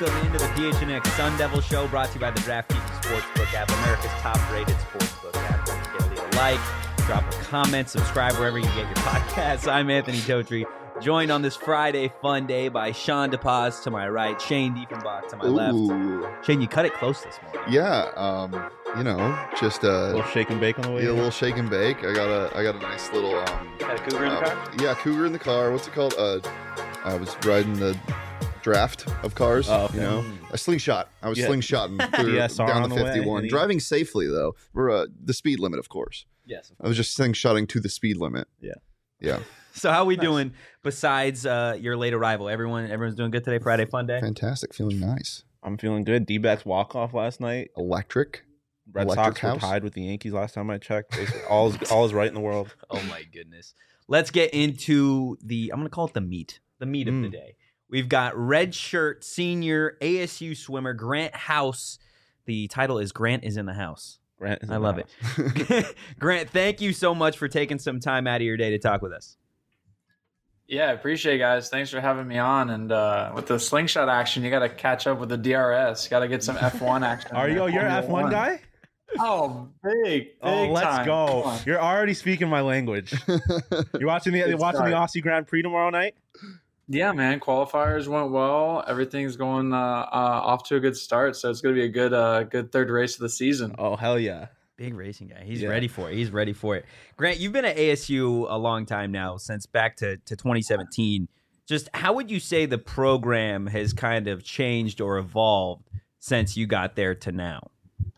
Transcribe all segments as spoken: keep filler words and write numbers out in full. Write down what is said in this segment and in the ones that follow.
Welcome into the P H N X Sun Devil Show, brought to you by the DraftKings Sportsbook app, America's top-rated sportsbook app. Don't forget to leave a like, drop a comment, subscribe wherever you get your podcasts. I'm Anthony Totri, joined on this Friday fun day by Sean DePaz to my right, Shane Diefenbach to my Ooh. left. Shane, you cut it close this morning. Yeah, um, you know, just uh, a little shake and bake on the way. Yeah, a in. little shake and bake. I got a, I got a nice little. Um, You got a cougar in the um, car? Yeah, cougar in the car. What's it called? Uh, I was riding the draft of cars. Oh, okay. You know, a slingshot. I was Yeah. slingshotting through, D S R down on the the way, fifty-one, any- driving safely though. We're uh, the speed limit, of course. Yes. I was just slingshotting to the speed limit. Yeah. Yeah. So how we Nice. doing besides uh, your late arrival? Everyone, everyone's doing good today. Friday fun day. Fantastic. Feeling nice. I'm feeling good. D-backs walk-off last night. Electric. Red Electric Sox house. were tied with the Yankees last time I checked. Basically, all is all is right in the world. Oh my goodness. Let's get into the, I'm going to call it the meat, the meat of the Mm. day. We've got red shirt senior A S U swimmer Grant House. The title is Grant is in the House. Grant is I in love the it. house. Grant, thank you so much for taking some time out of your day to talk with us. Yeah, I appreciate it, guys. Thanks for having me on. And uh, with the slingshot action, you got to catch up with the D R S. Got to get some F one action. Are you? there. You're an Formula F one guy? Oh, big, big Oh, let's time. Come go! on. You're already speaking my language. You're watching the you're Good watching the start. Aussie Grand Prix tomorrow night. Yeah, man. Qualifiers went well. Everything's going uh, uh, off to a good start. So it's going to be a good, uh, good third race of the season. Oh hell yeah! Big racing guy. He's Yeah. ready for it. He's ready for it. Grant, you've been at A S U a long time now, since back to, to twenty seventeen. Just how would you say the program has kind of changed or evolved since you got there to now?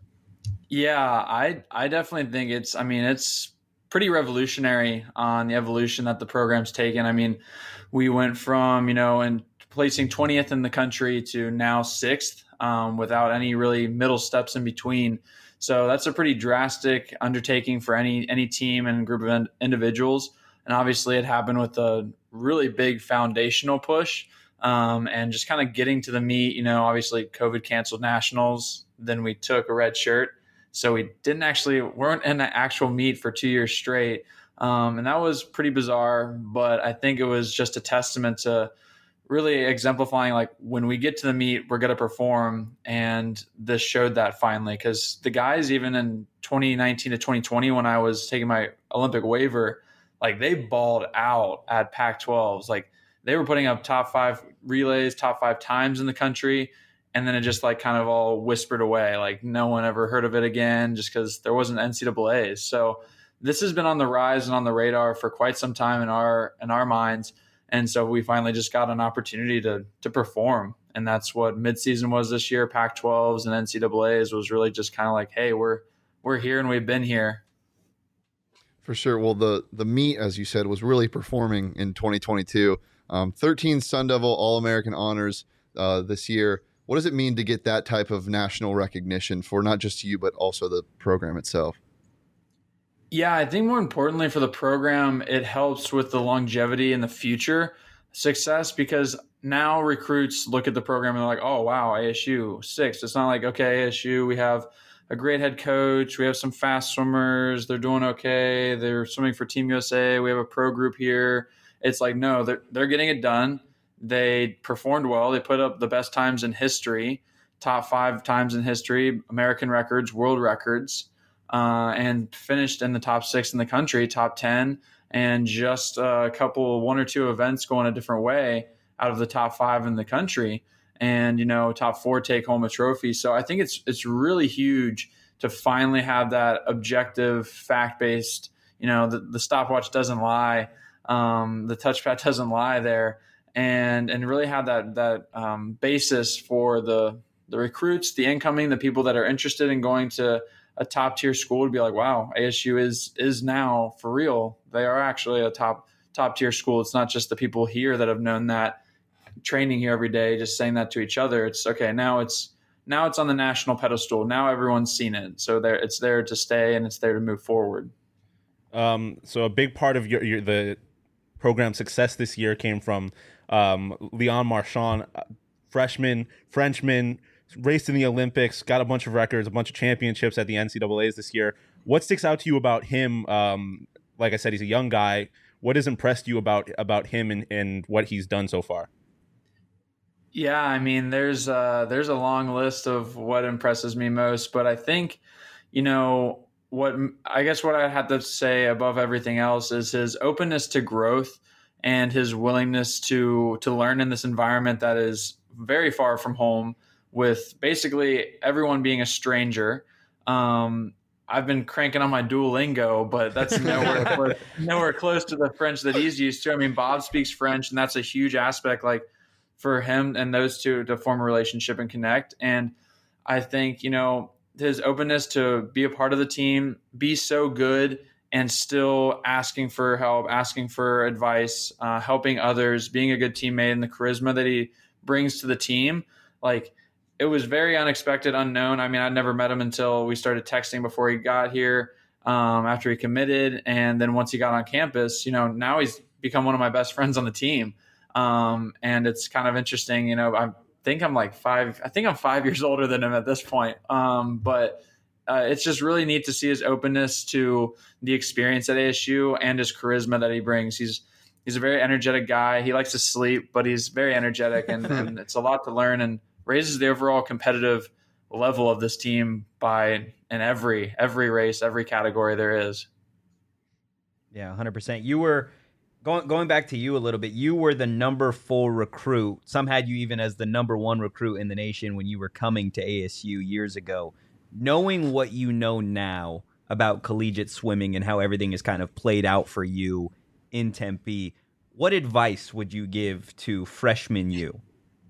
Yeah, I I definitely think it's I mean it's pretty revolutionary on the evolution that the program's taken. I mean, we went from, you know, and placing twentieth in the country to now sixth um, without any really middle steps in between. So that's a pretty drastic undertaking for any any team and group of in- individuals. And obviously it happened with a really big foundational push um, and just kind of getting to the meet. You know, obviously COVID canceled nationals. Then we took a red shirt. So we didn't actually weren't in the actual meet for two years straight. Um, and that was pretty bizarre. But I think it was just a testament to really exemplifying, like, when we get to the meet, we're going to perform. And this showed that finally, because the guys, even in twenty nineteen to twenty twenty, when I was taking my Olympic waiver, like, they balled out at Pac twelves. Like, they were putting up top five relays, top five times in the country. And then it just like kind of all whispered away. Like, no one ever heard of it again just because there wasn't N C double A's. So this has been on the rise and on the radar for quite some time in our in our minds. And so we finally just got an opportunity to to perform. And that's what midseason was this year. Pac twelves and N C double A's was really just kind of like, hey, we're we're here and we've been here. For sure. Well, the the meet, as you said, was really performing in twenty twenty-two. Um, thirteen Sun Devil All-American honors uh, this year. What does it mean to get that type of national recognition for not just you, but also the program itself? Yeah, I think more importantly for the program, it helps with the longevity and the future success, because now recruits look at the program and they're like, oh, wow, A S U, sixth. It's not like, okay, A S U, we have a great head coach. We have some fast swimmers. They're doing okay. They're swimming for Team U S A. We have a pro group here. It's like, no, they're, they're getting it done. They performed well. They put up the best times in history, top five times in history, American records, world records, uh, and finished in the top six in the country, top ten, and just a couple, one or two events going a different way out of the top five in the country, and, you know, top four take home a trophy. So I think it's it's really huge to finally have that objective, fact-based, you know, the, the stopwatch doesn't lie, um, the touchpad doesn't lie there. And and really have that that um, basis for the the recruits, the incoming, the people that are interested in going to a top tier school to be like, wow, A S U is is now for real. They are actually a top top tier school. It's not just the people here that have known that, training here every day, just saying that to each other. It's okay. Now it's now it's on the national pedestal. Now everyone's seen it, so there it's there to stay and it's there to move forward. Um, so a big part of your, your the program success this year came from um, Leon Marchand, freshman, Frenchman, raced in the Olympics, got a bunch of records, a bunch of championships at the N C double A's this year. What sticks out to you about him? Um, like I said, he's a young guy. What has impressed you about about him and, and what he's done so far? Yeah, I mean, there's uh, there's a long list of what impresses me most, but I think, you know, what I guess what I have to say above everything else is his openness to growth and his willingness to to learn in this environment that is very far from home, with basically everyone being a stranger. Um, I've been cranking on my Duolingo, but that's nowhere close, nowhere close to the French that he's used to. I mean, Bob speaks French, and that's a huge aspect, like for him and those two to form a relationship and connect. And I think, you know, his openness to be a part of the team, be so good, and still asking for help, asking for advice, uh, helping others, being a good teammate, and the charisma that he brings to the team. Like, it was very unexpected, unknown. I mean, I'd never met him until we started texting before he got here, um, after he committed. And then once he got on campus, you know, now he's become one of my best friends on the team. Um, and it's kind of interesting, you know, I think I'm like five, I think I'm five years older than him at this point. Um, but uh, it's just really neat to see his openness to the experience at A S U and his charisma that he brings. He's, he's a very energetic guy. He likes to sleep, but he's very energetic, and, and it's a lot to learn, and raises the overall competitive level of this team by in every, every race, every category there is. Yeah, one hundred percent. You were going going back to you a little bit. You were the number four recruit. Some had you even as the number one recruit in the nation when you were coming to A S U years ago. Knowing what you know now about collegiate swimming and how everything is kind of played out for you in Tempe, what advice would you give to freshman you?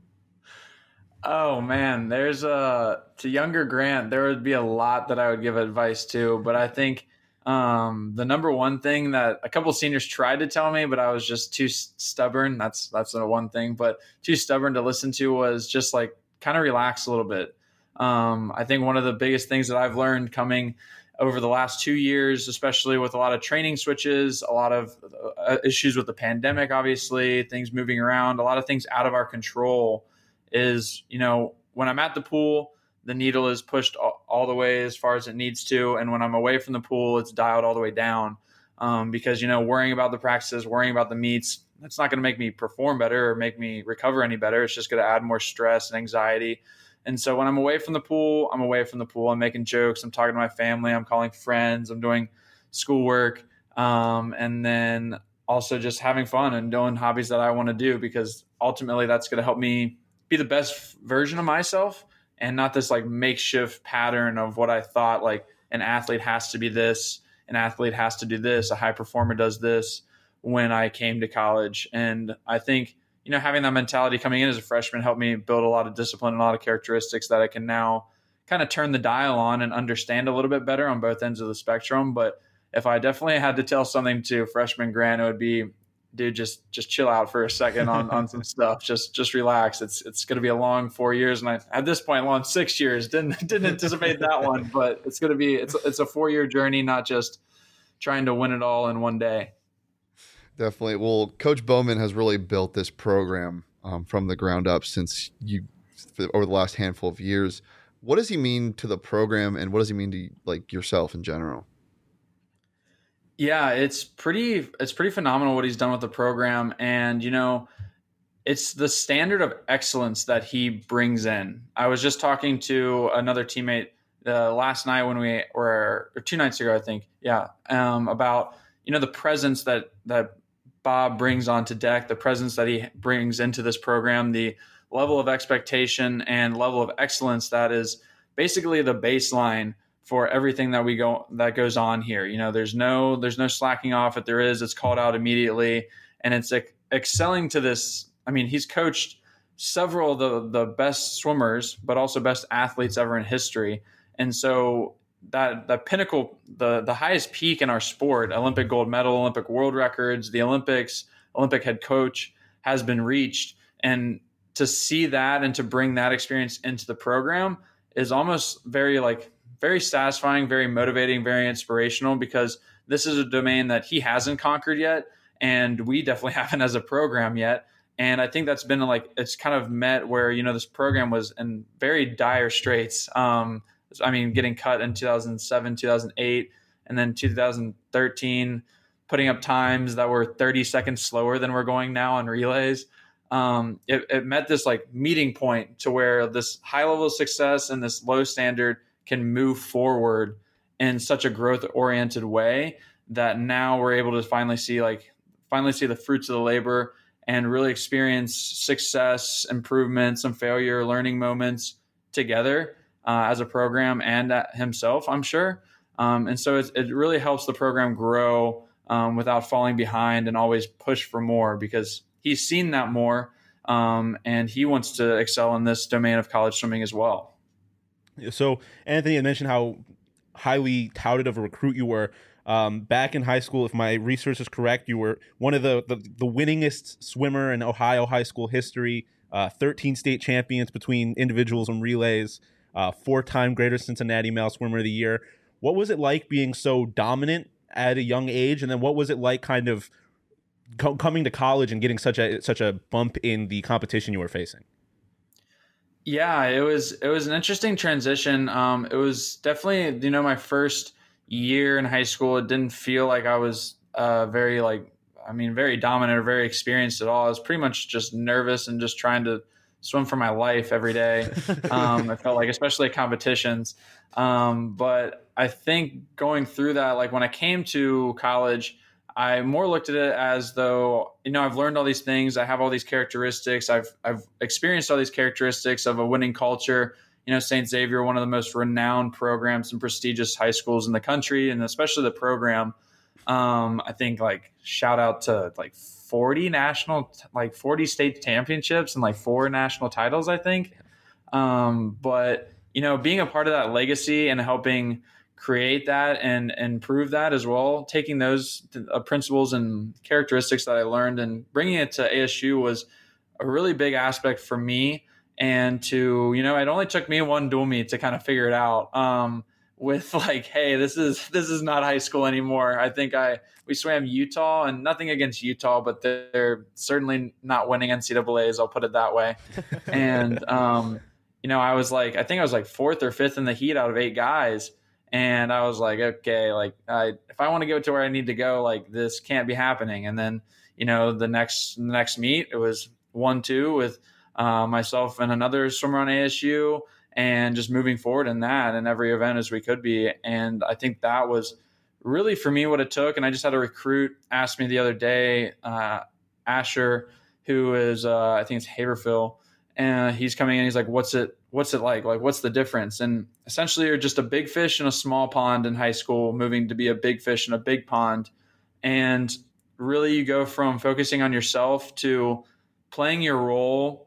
Oh man, there's a to younger Grant, there would be a lot that I would give advice to, but I think um, the number one thing that a couple of seniors tried to tell me, but I was just too stubborn. That's that's the one thing, but too stubborn to listen to was just like kind of relax a little bit. Um, I think one of the biggest things that I've learned coming over the last two years, especially with a lot of training switches, a lot of uh, issues with the pandemic, obviously, things moving around, a lot of things out of our control, is, you know, when I'm at the pool, the needle is pushed all, all the way as far as it needs to. And when I'm away from the pool, it's dialed all the way down. Um, because, you know, worrying about the practices, worrying about the meets, that's not going to make me perform better or make me recover any better. It's just going to add more stress and anxiety. And so when I'm away from the pool, I'm away from the pool. I'm making jokes. I'm talking to my family. I'm calling friends. I'm doing schoolwork. Um, and then also just having fun and doing hobbies that I want to do, because ultimately that's going to help me be the best version of myself, and not this like makeshift pattern of what I thought like an athlete has to be this, an athlete has to do this, a high performer does this when I came to college. And I think, you know, having that mentality coming in as a freshman helped me build a lot of discipline and a lot of characteristics that I can now kind of turn the dial on and understand a little bit better on both ends of the spectrum. But if I definitely had to tell something to freshman Grant, it would be, dude, just just chill out for a second on, on some stuff. Just just relax. It's it's going to be a long four years, and I at this point long six years. Didn't didn't anticipate that one, but it's going to be it's it's a four year journey, not just trying to win it all in one day. Definitely. Well, Coach Bowman has really built this program um, from the ground up since you over the last handful of years. What does he mean to the program, and what does he mean to like yourself in general? Yeah, it's pretty it's pretty phenomenal what he's done with the program. And, you know, it's the standard of excellence that he brings in. I was just talking to another teammate uh, last night when we were, or two nights ago, I think. Yeah. Um, about, you know, the presence that, that Bob brings onto deck, the presence that he brings into this program, the level of expectation and level of excellence that is basically the baseline for everything that we go that goes on here. You know, there's no there's no slacking off. If there is, it's called out immediately, and it's like excelling to this. I mean, he's coached several of the the best swimmers, but also best athletes ever in history, and so that that pinnacle, the the highest peak in our sport, Olympic gold medal, Olympic world records, the Olympics, Olympic head coach, has been reached, and to see that and to bring that experience into the program is almost very like. very satisfying, very motivating, very inspirational, because this is a domain that he hasn't conquered yet, and we definitely haven't as a program yet. And I think that's been like, it's kind of met where, you know, this program was in very dire straits. Um, I mean, getting cut in two thousand seven, two thousand eight, and then two thousand thirteen, putting up times that were thirty seconds slower than we're going now on relays. um, it, it met this like meeting point to where this high level of success and this low standard can move forward in such a growth oriented way that now we're able to finally see like finally see the fruits of the labor and really experience success, improvements, and failure, learning moments together uh, as a program and at himself, I'm sure. Um, and so it, it really helps the program grow um, without falling behind and always push for more, because he's seen that more um, and he wants to excel in this domain of college swimming as well. So Anthony had mentioned how highly touted of a recruit you were. Um, back in high school, if my research is correct, you were one of the, the, the winningest swimmer in Ohio high school history, uh, thirteen state champions between individuals and relays, uh, four-time Greater Cincinnati Male Swimmer of the Year. What was it like being so dominant at a young age? And then what was it like kind of co- coming to college and getting such a such a bump in the competition you were facing? Yeah, it was it was an interesting transition. Um, it was definitely, you know, my first year in high school. It didn't feel like I was uh, very like, I mean, very dominant or very experienced at all. I was pretty much just nervous and just trying to swim for my life every day. Um, I felt like, especially at competitions. Um, but I think going through that, like when I came to college, I more looked at it as though, you know, I've learned all these things. I have all these characteristics. I've, I've experienced all these characteristics of a winning culture. You know, Saint Xavier, one of the most renowned programs and prestigious high schools in the country, and especially the program. Um, I think like shout out to like forty national, like forty state championships and like four national titles, I think. Um, but, you know, being a part of that legacy and helping create that and, and improve that as well, taking those uh, principles and characteristics that I learned and bringing it to A S U was a really big aspect for me. And to, you know, it only took me one dual meet to kind of figure it out um, with like, hey, this is this is not high school anymore. I think I we swam Utah, and nothing against Utah, but they're certainly not winning N C double A's. I'll put it that way. And, um, you know, I was like, I think I was like fourth or fifth in the heat out of eight guys. And I was like, okay, like I, if I want to go to where I need to go, like this can't be happening. And then, you know, the next the next meet, it was one two with Uh, myself and another swimmer on A S U, and just moving forward in that in every event as we could be. And I think that was really for me what it took. And I just had a recruit ask me the other day, uh, Asher, who is, uh, I think it's Haverfield, and he's coming in. He's like, what's it, what's it like? Like, what's the difference? And essentially you're just a big fish in a small pond in high school, moving to be a big fish in a big pond. And really you go from focusing on yourself to playing your role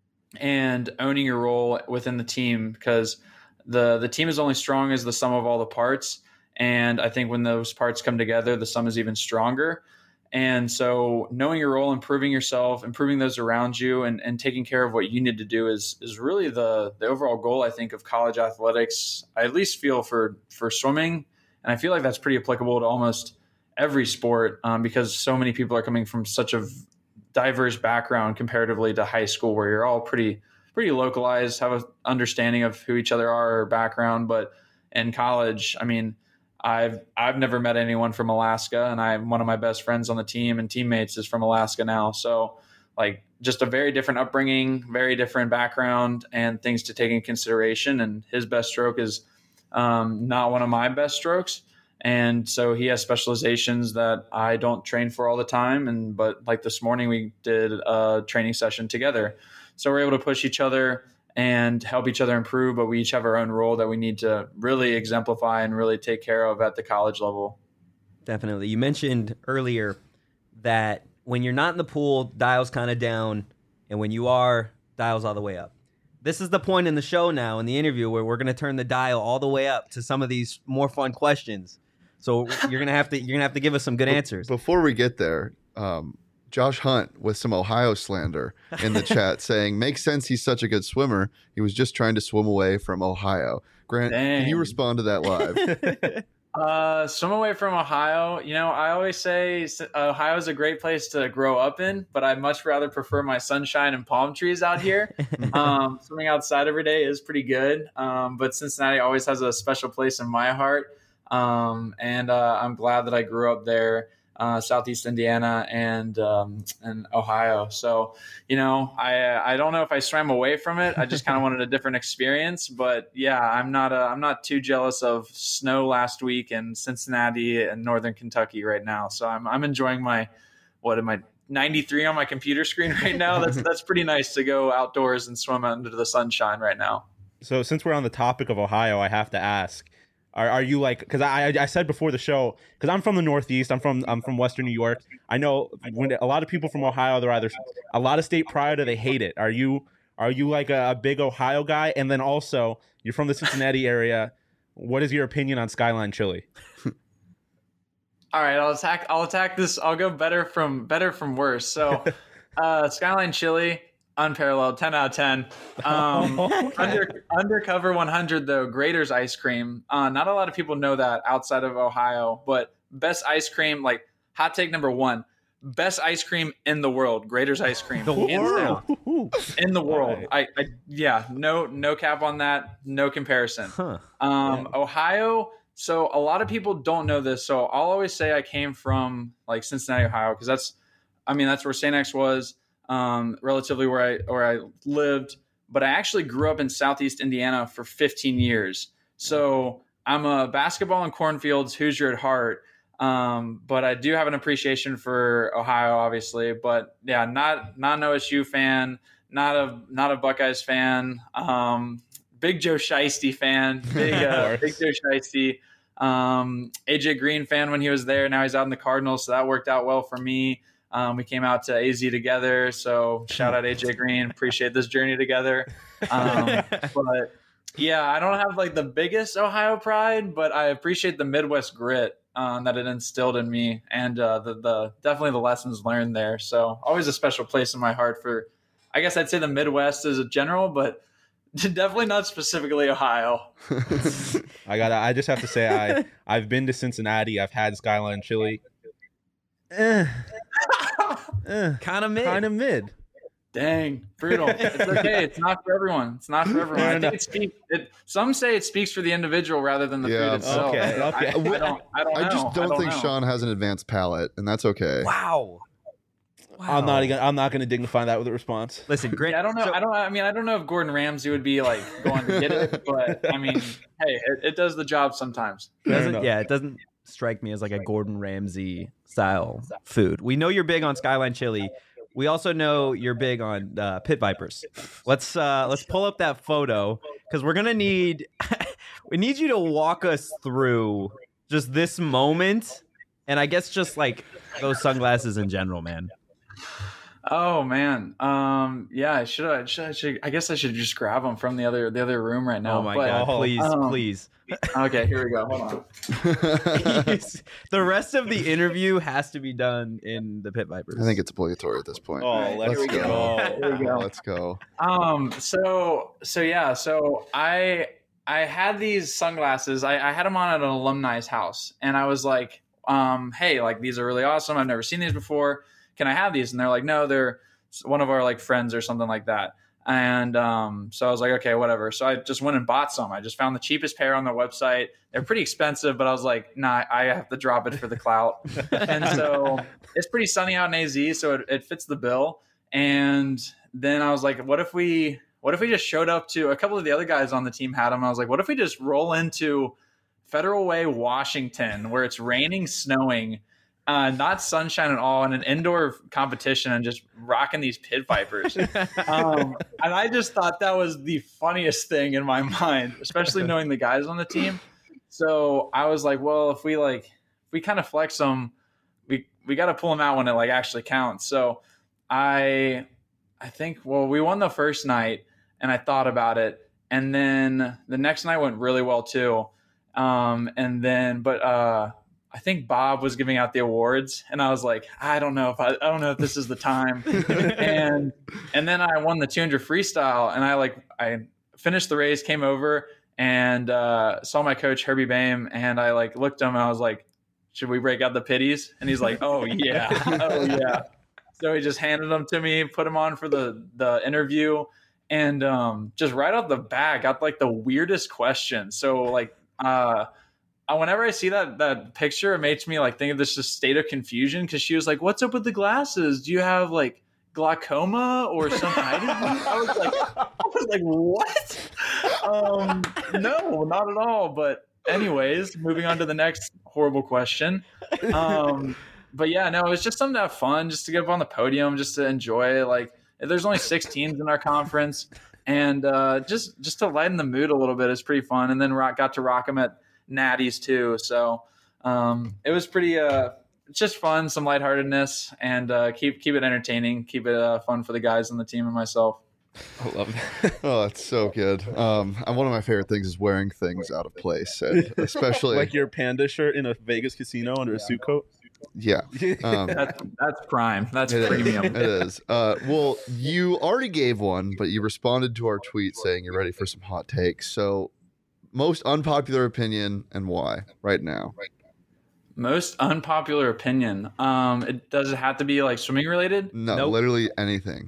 and owning your role within the team, because the the team is only strong as the sum of all the parts. And I think when those parts come together, the sum is even stronger. And so knowing your role, improving yourself, improving those around you, and, and taking care of what you need to do is is really the the overall goal, I think, of college athletics. I at least feel for for swimming. And I feel like that's pretty applicable to almost every sport um, because so many people are coming from such a diverse background comparatively to high school, where you're all pretty pretty localized, have an understanding of who each other are or background. But in college, I mean, I've I've never met anyone from Alaska, and I'm one of my best friends on the team and teammates is from Alaska now. So like just a very different upbringing, very different background, and things to take in consideration. And his best stroke is um, not one of my best strokes. And so he has specializations that I don't train for all the time. And but like this morning, we did a training session together. So we're able to push each other and help each other improve. But we each have our own role that we need to really exemplify and really take care of at the college level. Definitely. You mentioned earlier that when you're not in the pool, dial's kind of down. And when you are, dial's all the way up. This is the point in the show now, in the interview, where we're going to turn the dial all the way up to some of these more fun questions. So you're gonna have to you're gonna have to give us some good answers. Before we get there, um, Josh Hunt with some Ohio slander in the chat saying, "Makes sense. He's such a good swimmer. He was just trying to swim away from Ohio." Grant, Dang. Can you respond to that live? uh, swim away from Ohio. You know, I always say Ohio is a great place to grow up in, but I'd much rather prefer my sunshine and palm trees out here. um, swimming outside every day is pretty good, um, but Cincinnati always has a special place in my heart. Um, and uh, I'm glad that I grew up there. uh, Southeast Indiana, and um, and Ohio. So, you know, I I don't know if I swam away from it. I just kind of wanted a different experience. But yeah, I'm not uh, I'm not too jealous of snow last week in Cincinnati and Northern Kentucky right now. So I'm I'm enjoying my what am I ninety-three on my computer screen right now. That's that's pretty nice to go outdoors and swim under the sunshine right now. So since we're on the topic of Ohio, I have to ask: Are are you like? Because I I said before the show, because I'm from the Northeast. I'm from I'm from Western New York. I know when a lot of people from Ohio, they're either a lot of state pride or they hate it. Are you are you like a, a big Ohio guy? And then also, you're from the Cincinnati area. What is your opinion on Skyline Chili? All right, I'll attack. I'll attack this. I'll go better from better from worse. So, uh, Skyline Chili. Unparalleled, ten out of ten. Um, Okay. under, undercover one hundred though, Grater's ice cream. Uh, not a lot of people know that outside of Ohio, but best ice cream. Like hot take number one, best ice cream in the world. Grater's ice cream, The hands world. down. In the world. Right. I, I yeah, no no cap on that, no comparison. Huh. Um, Ohio. So a lot of people don't know this. So I'll always say I came from like Cincinnati, Ohio, because that's, I mean, that's where Saint X was. Um, relatively where I where I lived, but I actually grew up in Southeast Indiana for fifteen years. So I'm a basketball and cornfields Hoosier at heart, um, but I do have an appreciation for Ohio, obviously. But yeah, not not an O S U fan, not a not a Buckeyes fan, um, big Joe Shiesty fan, big uh, big Joe Shiesty, um, A J Green fan when he was there. Now he's out in the Cardinals, so that worked out well for me. Um, we came out to A Z together, so shout out A J Green. Appreciate this journey together. Um, but yeah, I don't have like the biggest Ohio pride, but I appreciate the Midwest grit um, that it instilled in me, and uh, the the definitely the lessons learned there. So always a special place in my heart for, I guess I'd say the Midwest as a general, but definitely not specifically Ohio. I got. I just have to say, I I've been to Cincinnati. I've had Skyline Chili. Eh, eh, Kind of mid. kind of mid. Dang, brutal. It's okay. It's not for everyone. It's not for everyone. I think it speaks. It, some say it speaks for the individual rather than the Yeah. food itself. Okay, I- okay. I, I don't. I don't know. I just don't, think know. Sean has an advanced palate, and that's okay. Wow. Wow. I'm not. Gonna, I'm not going to dignify that with a response. Listen, Grant. Yeah, I don't know. so- I don't. I mean, I don't know if Gordon Ramsay would be like going to get it, but I mean, hey, it, it does the job sometimes. Fair doesn't, enough. yeah, it doesn't strike me as like a Gordon Ramsay style food. We know you're big on Skyline Chili. We also know you're big on uh, Pit Vipers. Let's uh, let's pull up that photo because we're gonna need we need you to walk us through just this moment, and I guess just like those sunglasses in general, man. Oh man, um, yeah, I should, I should, I should. I guess I should just grab them from the other, the other room right now. Oh my but, god! Oh, Please, um, please. Okay, here we go. Hold on. The rest of the interview has to be done in the Pit Vipers. I think it's obligatory at this point. Oh, let's Here we go. go. Here we go. Let's go. Um. So. So yeah. So I I had these sunglasses. I, I had them on at an alumni's house, and I was like, um, hey, like these are really awesome. I've never seen these before. Can I have these? And they're like, no, they're one of our like friends or something like that. And um, so I was like, okay, whatever. So I just went and bought some. I just found the cheapest pair on their website. They're pretty expensive, but I was like, nah, I have to drop it for the clout. And so it's pretty sunny out in A Z, so it, it fits the bill. And then I was like, what if we, what if we just showed up to a couple of the other guys on the team had them. I was like, what if we just roll into Federal Way, Washington, where it's raining, snowing, uh, not sunshine at all, in an indoor competition, and just rocking these Pit Vipers. um, and I just thought that was the funniest thing in my mind, especially knowing the guys on the team. So I was like, well, if we like, if we kind of flex them, we we got to pull them out when it like actually counts. So I, I think, well, we won the first night, and I thought about it, and then the next night went really well too. Um, and then, but uh, I think Bob was giving out the awards, and I was like, I don't know if I, I don't know if this is the time. and and then I won the two hundred freestyle, and I like I finished the race, came over, and uh, saw my coach Herbie Boehm, and I like looked at him, and I was like, should we break out the pitties? And he's like, oh yeah, oh yeah. So he just handed them to me, put them on for the the interview, and um, just right off the bat got like the weirdest question. So like. Uh, uh, whenever I see that that picture, it makes me like think of this just state of confusion because she was like, "What's up with the glasses? Do you have like glaucoma or some eye disease?" I was like, I was like, what? Um, no, not at all. But anyways, moving on to the next horrible question. Um, but yeah, no, it was just something to have fun, just to get up on the podium, just to enjoy. Like, there's only six teams in our conference, and uh, just just to lighten the mood a little bit is pretty fun. And then rock, got to rock them at Natty's too, so um, it was pretty. Uh, just fun, some lightheartedness, and uh, keep keep it entertaining, keep it uh, fun for the guys on the team and myself. I love that. Oh, it's so good. Um, and one of my favorite things is wearing things out of place, and especially like your panda shirt in a Vegas casino under a suit coat. Yeah, um, That's, that's prime. That's it is. premium. It is. Uh, well, you already gave one, but you responded to our tweet saying you're ready for some hot takes. So, most unpopular opinion and why right now? Most unpopular opinion. Um, it does it have to be like swimming related? No, Nope. literally anything.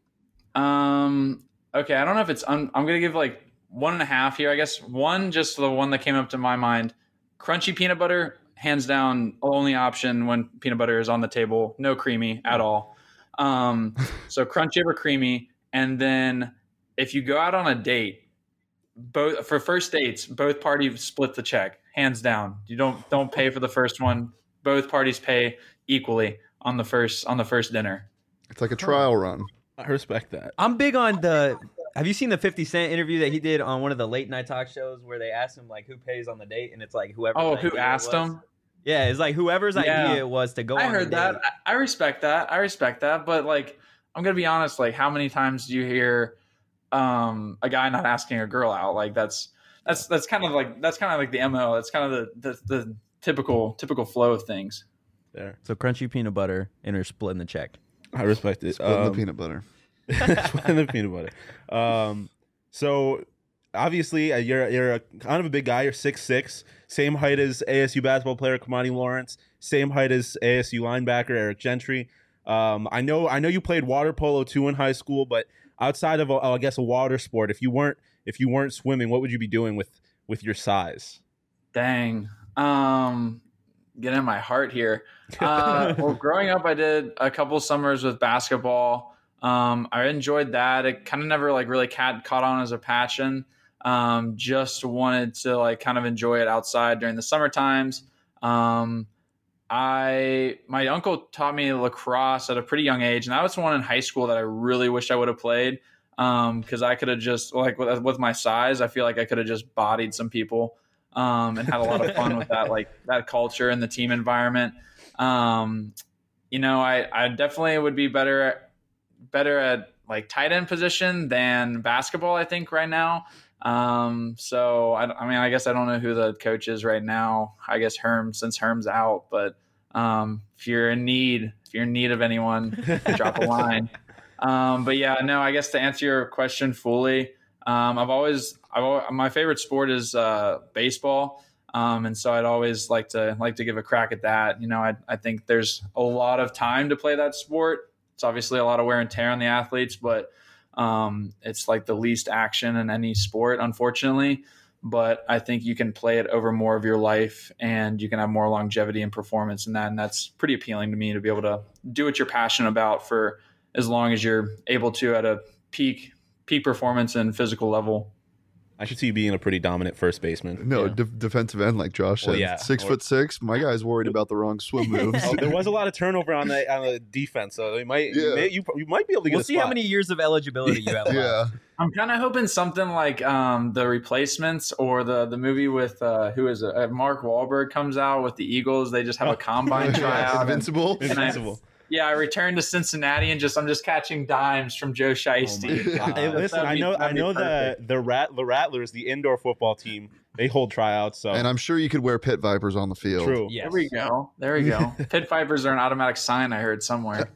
Um, okay, I don't know if it's. Un- I'm gonna give like one and a half here. I guess one, just the one that came up to my mind. Crunchy peanut butter, hands down, only option when peanut butter is on the table. No creamy at all. Um, so crunchy over creamy, and then if you go out on a date, both for first dates, both parties split the check, hands down. You don't don't pay for the first one. Both parties pay equally on the first on the first dinner. It's like a trial run. I respect that. I'm big on the. Have you seen the fifty Cent interview that he did on one of the late night talk shows where they asked him like who pays on the date, and it's like whoever. Oh, who asked him? Yeah, it's like whoever's Yeah. idea it was to go. I on heard the that. date. I I respect that. I respect that. But like, I'm gonna be honest. Like, how many times do you hear um, a guy not asking a girl out? Like, that's that's that's kind of like that's kind of like the M O. That's kind of the, the the typical typical flow of things. There, So crunchy peanut butter and her splitting the check. I respect it. Splitting Um, the peanut butter. Splitting the peanut butter. Um, so obviously uh, you're you're a, kind of a big guy. You're six six, same height as A S U basketball player Kamani Lawrence, same height as A S U linebacker Eric Gentry. Um, I know I know you played water polo too in high school, but outside of a, I guess a water sport, if you weren't if you weren't swimming, what would you be doing with with your size? Dang. Um, get in my heart here. Uh, well, growing up, I did a couple summers with basketball. Um, I enjoyed that. It kind of never like really cat, caught on as a passion. Um, just wanted to like kind of enjoy it outside during the summer times. Um, I my uncle taught me lacrosse at a pretty young age, and that was one in high school that I really wish I would have played because um, I could have just like with, with my size, I feel like I could have just bodied some people um, and had a lot of fun with that, like that culture and the team environment. Um, you know, I, I definitely would be better at, better at like tight end position than basketball, I think right now. Um, so I, I mean, I guess I don't know who the coach is right now. I guess Herm, since Herm's out, but um, if you're in need, if you're in need of anyone, drop a line. Um, but yeah, no, I guess to answer your question fully, um, I've always, I've always, my favorite sport is uh, baseball. Um, and so I'd always like to like to give a crack at that. You know, I, I think there's a lot of time to play that sport. It's obviously a lot of wear and tear on the athletes, but um, it's like the least action in any sport, unfortunately. But I think you can play it over more of your life and you can have more longevity and performance in that. And that's pretty appealing to me to be able to do what you're passionate about for as long as you're able to at a peak peak performance and physical level. I should see you being a pretty dominant first baseman. No, Yeah. de- defensive end, like Josh said. Well, yeah. Six Or- foot six. My guy's worried about the wrong swim moves. Oh, there was a lot of turnover on the on the defense, so you might Yeah. you, may, you, you might be able to get We'll a see how spot. many years of eligibility you have left. Yeah. I'm kind of hoping something like um, The Replacements or the the movie with uh, who is it? Uh, Mark Wahlberg comes out with the Eagles. They just have a combine tryout. and- Invincible. and I- Invincible. yeah, I returned to Cincinnati and just I'm just catching dimes from Joe Shiesty. Oh my Hey, Uh, listen, that'd I be- know I that'd be know the perfect. the rat the Rattlers, the indoor football team, they hold tryouts. So And I'm sure you could wear pit vipers on the field. true. Yes. There we go. There we go. Pit Vipers are an automatic sign I heard somewhere.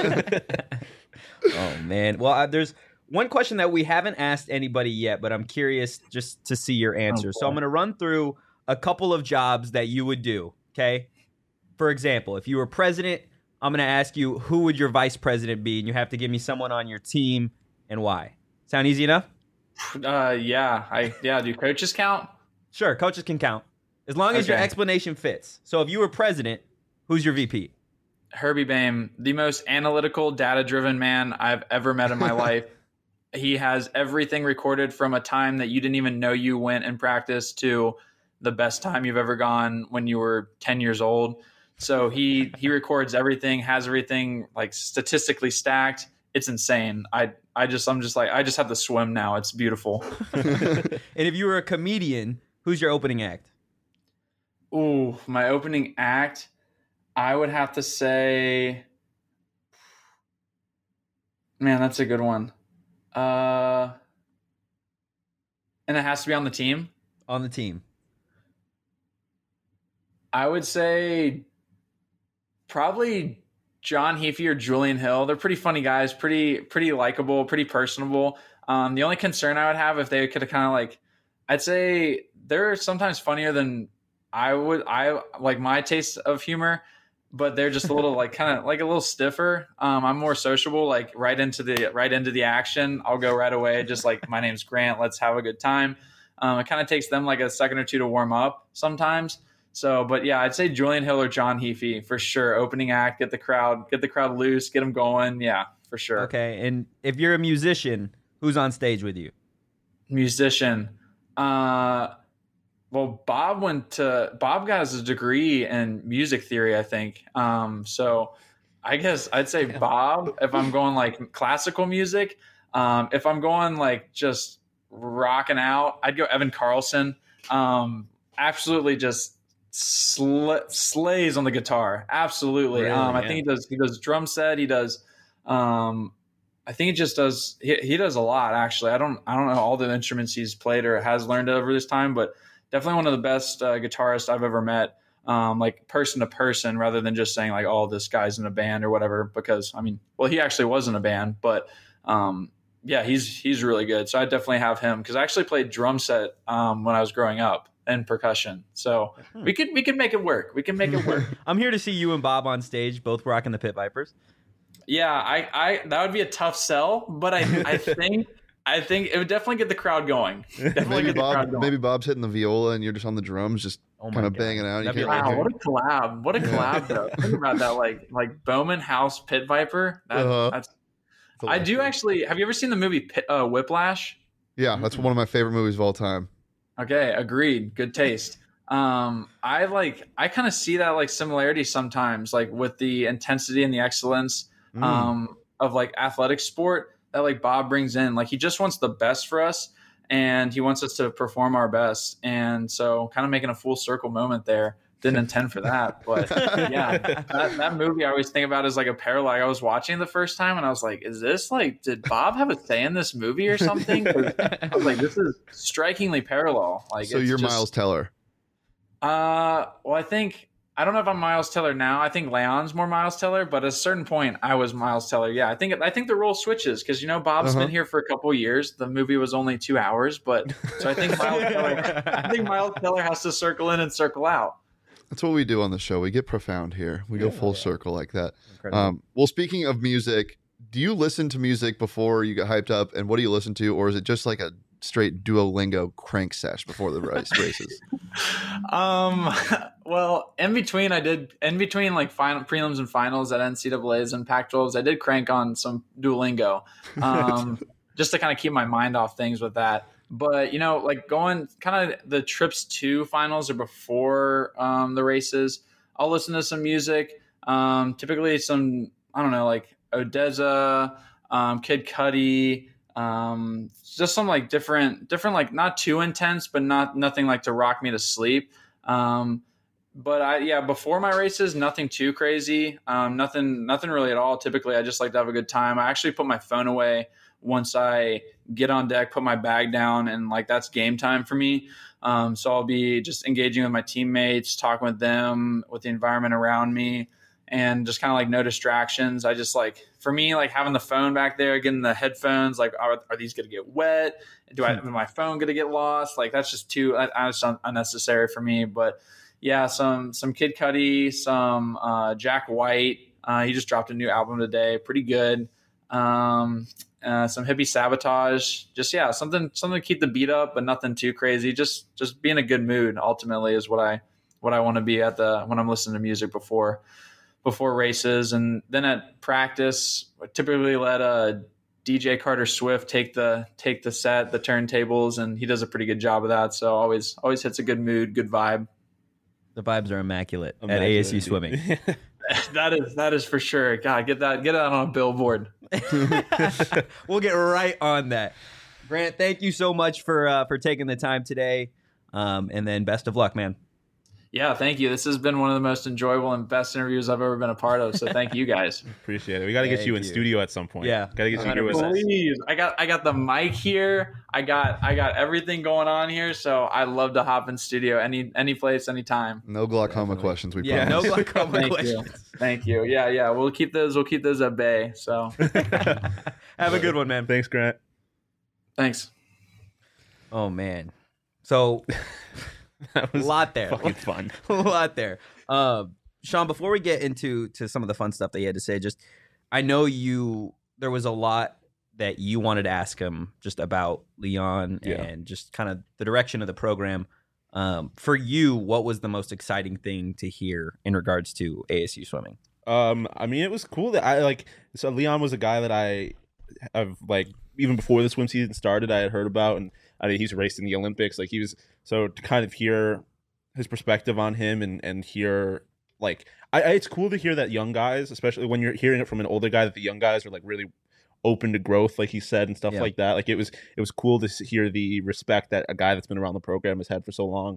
Oh man. Well, uh, there's one question that we haven't asked anybody yet, but I'm curious just to see your answer. so boy. I'm going to run through a couple of jobs that you would do. Okay. For example, if you were president, I'm going to ask you who would your vice president be, and you have to give me someone on your team and why. Sound easy enough? Uh, yeah, I yeah. Do coaches count? Sure. Coaches can count. As long as Okay. your explanation fits. So if you were president, who's your V P? Herbie Bame, the most analytical, data-driven man I've ever met in my life. He has everything recorded from a time that you didn't even know you went and practiced to the best time you've ever gone when you were ten years old. So he he records everything, has everything like statistically stacked. It's insane. I I just I'm just like I just have to swim now. It's beautiful. And if you were a comedian, who's your opening act? Ooh, my opening act, I would have to say, man, that's a good one. Uh, and it has to be on the team. On the team. I would say probably John Heafy or Julian Hill. They're pretty funny guys, pretty pretty likable, pretty personable. Um, the only concern I would have if they could kind of like, I'd say they're sometimes funnier than I would. I like my taste of humor, but they're just a little like kind of like a little stiffer. Um, I'm more sociable, like right into the right into the action. I'll go right away. Just like my name's Grant. Let's have a good time. Um, it kind of takes them like a second or two to warm up sometimes. So, but yeah, I'd say Julian Hill or John Heafy for sure. Opening act, get the crowd, get the crowd loose, get them going. Yeah, for sure. Okay. And if you're a musician, who's on stage with you? Musician. Uh, well, Bob went to Bob got his degree in music theory, I think. Um, so I guess I'd say Bob if I'm going like classical music. Um, if I'm going like just rocking out, I'd go Evan Carlson. Um, absolutely just sl- slays on the guitar. Absolutely. Really, um, I yeah. think he does. He does drum set. He does. Um, I think he just does. He, he does a lot actually. I don't. I don't know all the instruments he's played or has learned over this time, but definitely one of the best uh, guitarists I've ever met. Um, like person to person, rather than just saying like, "Oh, this guy's in a band" or whatever. Because I mean, well, he actually was in a band, but um, yeah, he's he's really good. So I definitely have him because I actually played drum set um, when I was growing up and percussion. So we could we could make it work. We can make it work. I'm here to see you and Bob on stage, both rocking the Pit Vipers. Yeah, I, I that would be a tough sell, but I I think I think it would definitely get the crowd going. Definitely Maybe get the crowd Bob, going. maybe Bob's hitting the viola and you're just on the drums, just Oh my kind of God. banging out. You That'd be can't Wow, really what a collab! What a collab, though. Think about that, like like Bowman House Pit Viper. That, Uh-huh. That's hear. I do actually. Have you ever seen the movie Pit, uh, Whiplash? Yeah, that's one of my favorite movies of all time. Okay, agreed. Good taste. Um, I like. I kind of see that like similarity sometimes, like with the intensity and the excellence Mm. um, of like athletic sport that like Bob brings in. Like he just wants the best for us, and he wants us to perform our best. And so, kind of making a full circle moment there. Didn't intend for that, but yeah, that, that movie I always think about is like a parallel. I was watching the first time, and I was like, "Is this like? Did Bob have a say in this movie or something?" 'Cause I was like, "This is strikingly parallel." Like, So it's you're just- Miles Teller. Uh, well, I think I don't know if I'm Miles Teller now. I think Leon's more Miles Teller, but at a certain point, I was Miles Teller. Yeah, I think I think the role switches because you know Bob's Uh-huh. been here for a couple of years. The movie was only two hours, but so I think Miles Teller. I think Miles Teller has to circle in and circle out. That's what we do on the show. We get profound here. We go full circle like that. Incredible. Um, well, speaking of music, do you listen to music before you get hyped up? And what do you listen to? Or is it just like a straight Duolingo crank sesh before the race races? Um, well, in between, I did in between like final prelims and finals at N C double A's and Pac twelves. I did crank on some Duolingo, um, just to kind of keep my mind off things with that. But you know, like going kind of the trips to finals or before um, the races, I'll listen to some music. Um, typically, some I don't know, like Odessa, um, Kid Cudi. Um, just some like different, different, like not too intense, but not nothing like to rock me to sleep. Um, but I, yeah, before my races, nothing too crazy. Um, nothing, nothing really at all. Typically I just like to have a good time. I actually put my phone away once I get on deck, put my bag down, and like, that's game time for me. Um, so I'll be just engaging with my teammates, talking with them, with the environment around me, and just kind of like no distractions. I just like, for me, like having the phone back there, getting the headphones, like, are, are these going to get wet? Do I, is my phone going to get lost? Like, that's just too, that's unnecessary for me. But yeah, some, some Kid Cudi, some, uh, Jack White. Uh, he just dropped a new album today. Pretty good. Um, uh, some hippie sabotage. Just yeah, something something to keep the beat up, but nothing too crazy. Just just be in a good mood. Ultimately, is what I what I want to be at the when I'm listening to music before before races, and then at practice, I typically let a D J Carter Swift take the take the set, the turntables, and he does a pretty good job of that. So always always hits a good mood, good vibe. The vibes are immaculate, Immaculate at A S U indeed. Swimming. That is that is for sure. God, get that get that on a billboard. We'll get right on that. Grant, thank you so much for uh, for taking the time today, um, and then best of luck, man. Yeah, thank you. This has been one of the most enjoyable and best interviews I've ever been a part of. So thank you guys. Appreciate it. We got to get Thank you in you. studio at some point. Yeah, got to get you one here hundred with us. Please, I got I got the mic here. I got I got everything going on here. So I love to hop in studio any any place, anytime. No glaucoma Definitely. questions. We Yeah, promise. no glaucoma Thank you. questions. Thank you. Yeah, yeah. We'll keep those. We'll keep those at bay. So Have a good one, man. Thanks, Grant. thanks. Oh man, so That a was lot there. fucking fun. a lot there. Um, Sean, before we get into to some of the fun stuff that you had to say, just I know you there was a lot that you wanted to ask him just about Leon Yeah. and just kind of the direction of the program. Um, for you, what was the most exciting thing to hear in regards to A S U swimming? Um, I mean, it was cool that I like. So Leon was a guy that I have like even before the swim season started, I had heard about, and I mean, he's raced in the Olympics. Like he was so to kind of hear his perspective on him and and hear like I, I it's cool to hear that young guys, especially when you're hearing it from an older guy, that the young guys are like really open to growth, like he said, and stuff Yeah. like that. Like it was it was cool to s- hear the respect that a guy that's been around the program has had for so long.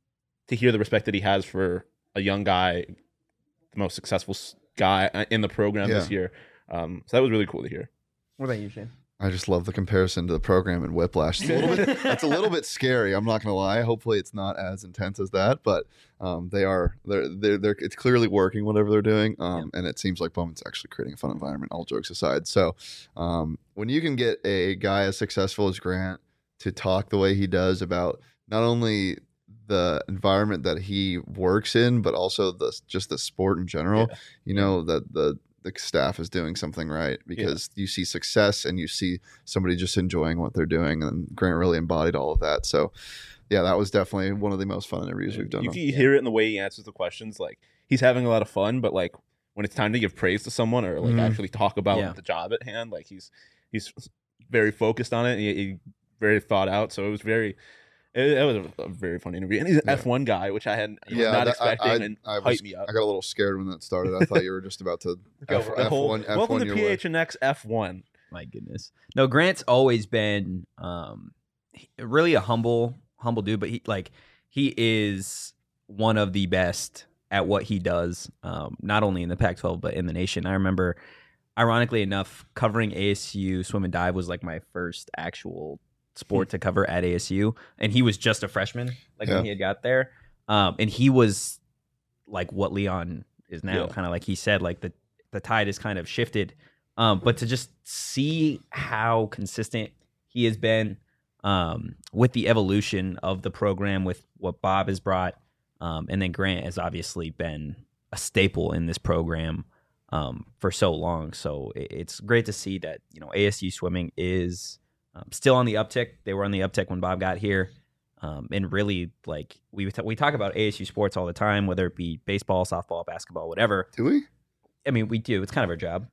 To hear the respect that he has for a young guy, the most successful s- guy uh, in the program this Yeah. year. Um, so that was really cool to hear. What about you, Shane? I just love the comparison to the program and Whiplash. It's a little bit, it's a little bit scary. I'm not gonna lie. Hopefully, it's not as intense as that, but um, they are. They're, they're, they're. It's clearly working whatever they're doing, um, and it seems like Bowman's actually creating a fun environment. All jokes aside, so um, when you can get a guy as successful as Grant to talk the way he does about not only the environment that he works in, but also the just the sport in general, Yeah. you know that the the staff is doing something right because you see success and you see somebody just enjoying what they're doing, and Grant really embodied all of that. So yeah, that was definitely one of the most fun interviews we've done. You can hear it in the way he answers the questions. Like he's having a lot of fun, but like when it's time to give praise to someone or like Mhm. actually talk about Yeah. the job at hand, like he's he's very focused on it. And he, he very thought out. So it was very. It, it was a, a very fun interview, and he's an Yeah. F one guy, which I hadn't was Yeah, not that- I- expecting, I- and I hyped was- me up. I got a little scared when that started. I thought you were just about to Go F, for it. F1 F1 Welcome to your P way. H N X F one. My goodness. No, Grant's always been um he- really a humble humble dude, but he like he is one of the best at what he does, um, not only in the Pac twelve but in the nation. I remember, ironically enough, covering A S U swim and dive was like my first actual sport to cover at A S U, and he was just a freshman, like Yeah. when he had got there, um, and he was like what Leon is now, Yeah. kind of like he said, like the the tide has kind of shifted. Um, but to just see how consistent he has been um, with the evolution of the program, with what Bob has brought, um, and then Grant has obviously been a staple in this program um, for so long. So it, it's great to see that you know A S U swimming is um, still on the uptick. They were on the uptick when Bob got here, um, and really like we we talk about A S U sports all the time, whether it be baseball, softball, basketball, whatever. Do we? I mean, we do. It's kind of our job,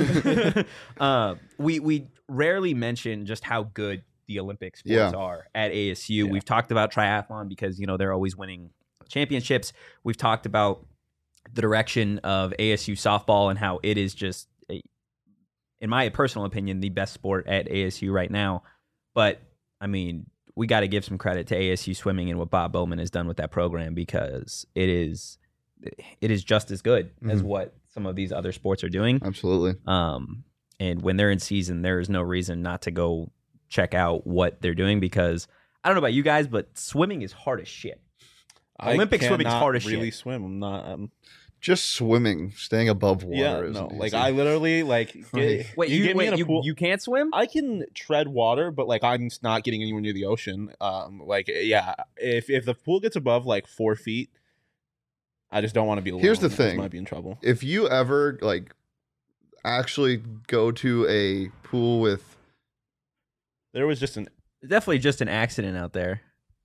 but uh, we we rarely mention just how good the Olympic sports Yeah. are at A S U. Yeah. We've talked about triathlon because you know they're always winning championships. We've talked about the direction of A S U softball and how it is just, a, in my personal opinion, the best sport at A S U right now. But I mean, we got to give some credit to A S U swimming and what Bob Bowman has done with that program because it is it is just as good as Mhm. what some of these other sports are doing. Absolutely. Um, and when they're in season, there is no reason not to go check out what they're doing because I don't know about you guys, but swimming is hard as shit. Olympic I swimming's cannot hard as really shit. swim. I'm not. Um, Just swimming, staying above water. yeah, isn't no. Like easy. I literally like. Get, Wait, you, get me wait, in a you, pool. you can't swim? I can tread water, but like I'm just not getting anywhere near the ocean. Um, like yeah, if if the pool gets above like four feet, I just don't want to be alone. Here's the I just thing. might be in trouble. If you ever like actually go to a pool with There was just an Definitely just an accident out there.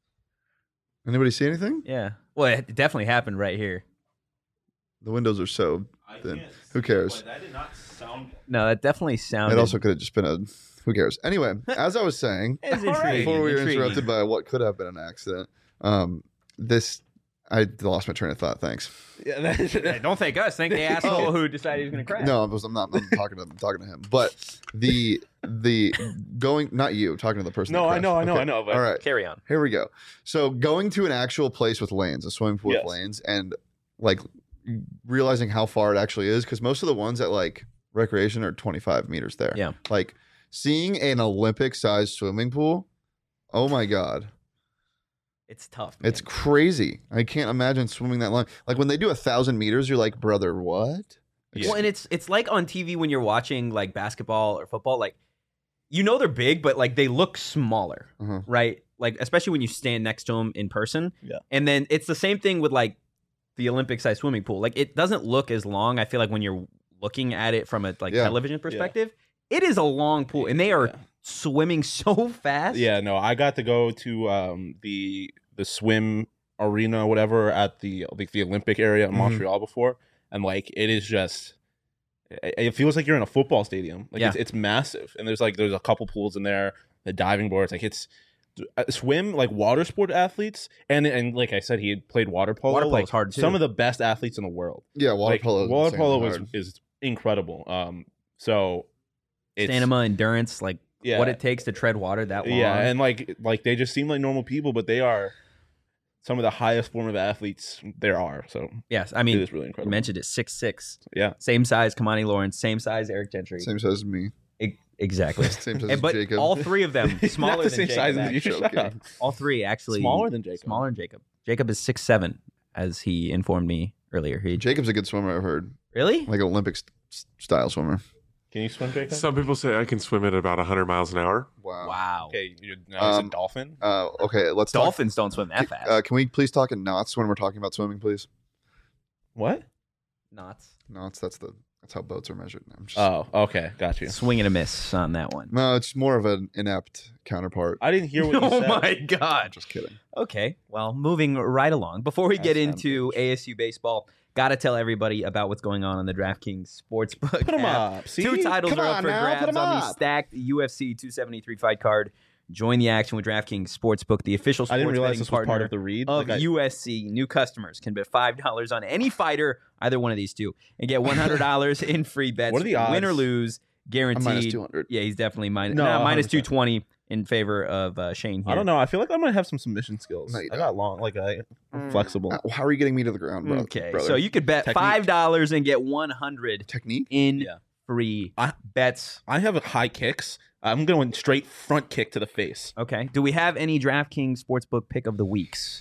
Anybody see anything? Yeah. Well, it definitely happened right here. The windows are so thin. Who cares? That did not sound. No, that definitely sounded. It also could have just been a. Who cares? Anyway, as I was saying, It's All right. intriguing. before we were intriguing. interrupted by what could have been an accident, um, this I lost my train of thought. Thanks. Yeah, that, Hey, don't thank us. Thank the asshole who decided he was going to crash. No, I was, I'm not. I'm talking to. I'm talking to him. But the the going. Not you. I'm talking to the person. No, that I crashed. know, I know, Okay. I know, but- All right. Carry on. Here we go. So going to an actual place with lanes, a swimming pool Yes. with lanes, and like realizing how far it actually is, because most of the ones at like recreation are twenty-five meters there. Yeah. Like seeing an Olympic-sized swimming pool. Oh my god, It's tough. Man. it's crazy. I can't imagine swimming that long. Like when they do a thousand meters, you're like, brother, what? Yeah. Well, and it's it's like on T V when you're watching like basketball or football. Like, you know they're big, but like they look smaller, Uh-huh. right? Like especially when you stand next to them in person. Yeah. And then it's the same thing with like the Olympic-sized swimming pool. Like it doesn't look as long. I feel like when you're looking at it from a like Yeah. television perspective, it is a long pool, and they are Yeah. swimming so fast. Yeah, no, I got to go to um, the the swim arena, or whatever, at the like the Olympic area in Mhm. Montreal before, and like it is just, it, it feels like you're in a football stadium. Like Yeah. it's, it's massive, and there's like there's a couple pools in there, the diving boards, like it's uh, swim like water sport athletes, and and like I said, he had played water polo. Water polo's like hard, too. Some of the best athletes in the world. Yeah, water Like, polo. is Water insanely polo is hard. is incredible. Um, so it's Stamina, endurance, like yeah, what it takes to tread water that long. yeah, and like like they just seem like normal people, but they are some of the highest form of athletes there are. So yes, I it mean, is really you incredible. mentioned it, six six, Yeah, same size Kamani Lawrence, same size Eric Gentry. Same size as me. E- exactly. Same size And- as but Jacob. all three of them smaller Not the than same Jacob. size as actually. you. actually. Shut up. All three actually Smaller than Jacob. Smaller than Jacob. Jacob is six seven, as he informed me earlier. He Jacob's a good swimmer. I've heard, really? like an Olympic st- style swimmer. Can you swim, Jacob? Some people say I can swim at about one hundred miles an hour. Wow. Wow. Okay, you're now he's Um, a dolphin. Uh, okay, let's talk. Dolphins don't swim that fast. Uh, can we please talk in knots when we're talking about swimming, please? What? Knots. Knots. That's the that's how boats are measured. I'm just, Oh, okay, got you. Swing and a miss on that one. no, it's more of an inept counterpart. I didn't hear what you Oh said. my I'm god. just kidding. Okay, well, moving right along. Before we get That's into A S U baseball, gotta tell everybody about what's going on on the DraftKings Sportsbook. Put them app. up. See? Two titles Come are up on for now, put grabs 'em on the up. stacked U F C two seventy-three fight card. Join the action with DraftKings Sportsbook, the official I sports didn't realize betting this was partner part of the read. of Like I- U S C. New customers can bet five dollars on any fighter, either one of these two, and get one hundred dollars in free bets. What are the Win or odds? lose, I'm guaranteed. minus two hundred. Yeah, he's definitely minus, No, no, minus one hundred two percent. twenty in favor of uh, Shane here. I don't know. I feel like I might have some submission skills. No, you I don't. got long, like I, I'm flexible. Uh, How are you getting me to the ground, bro? Okay, brother? so you could bet Technique. five dollars and get one hundred technique? in Yeah. free I- bets. I have high kicks. I'm going straight front kick to the face. Okay. Do we have any DraftKings Sportsbook pick of the weeks?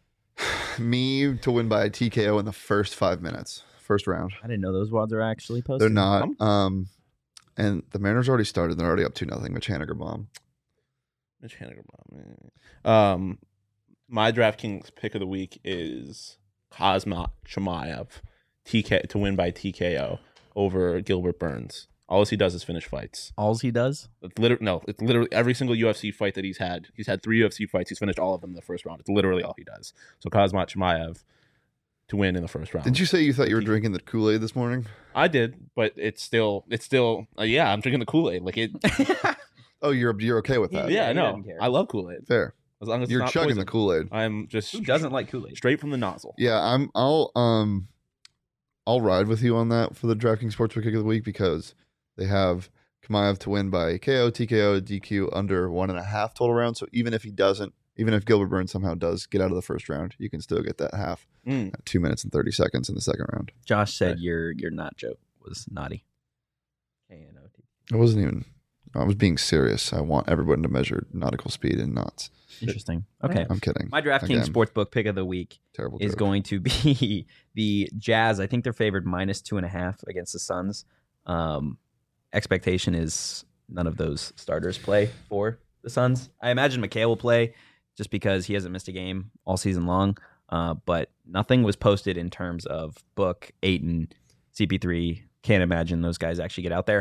Me to win by a T K O in the first five minutes, first round. I didn't know those odds are actually posted. They're not. Um, Um, and the Mariners already started. They're already up to nothing. Mitch Haniger bomb. Mitch Haniger bomb. Um, my DraftKings pick of the week is Kazmat Chimaev T K to win by T K O over Gilbert Burns. All he does is finish fights. Alls he does? It's literally no. It's literally every single U F C fight that he's had. He's had three U F C fights. He's finished all of them in the first round. It's literally all he does. So Kazmat Chimaev to win in the first round. Didn't you say you thought you were drinking the Kool Aid this morning? I did, but it's still, it's still, uh, yeah. I'm drinking the Kool Aid. Like it. Oh, you're you're okay with that? yeah, he I know. doesn't care. I love Kool Aid. Fair. As long as You're it's not chugging poison. the Kool Aid. I'm just Who doesn't like Kool-Aid? straight from the nozzle. Yeah, I'm. I'll um, I'll ride with you on that for the DraftKings Sportsbook Pick of the Week because they have Chimaev to win by K O, T K O, D Q under one and a half total rounds. So even if he doesn't, even if Gilbert Burns somehow does get out of the first round, you can still get that half Mm. at two minutes and thirty seconds in the second round. Josh said Okay. your your not joke was naughty. K N O T. I wasn't even. I was being serious. I want everyone to measure nautical speed in knots. Interesting. Okay. I'm kidding. My DraftKings Again, Sportsbook pick of the week terrible is joke. going to be the Jazz. I think they're favored minus two and a half against the Suns. Um, expectation is none of those starters play for the Suns. I imagine McHale will play just because he hasn't missed a game all season long. Uh, but nothing was posted in terms of Book, Ayton, C P three. Can't imagine those guys actually get out there.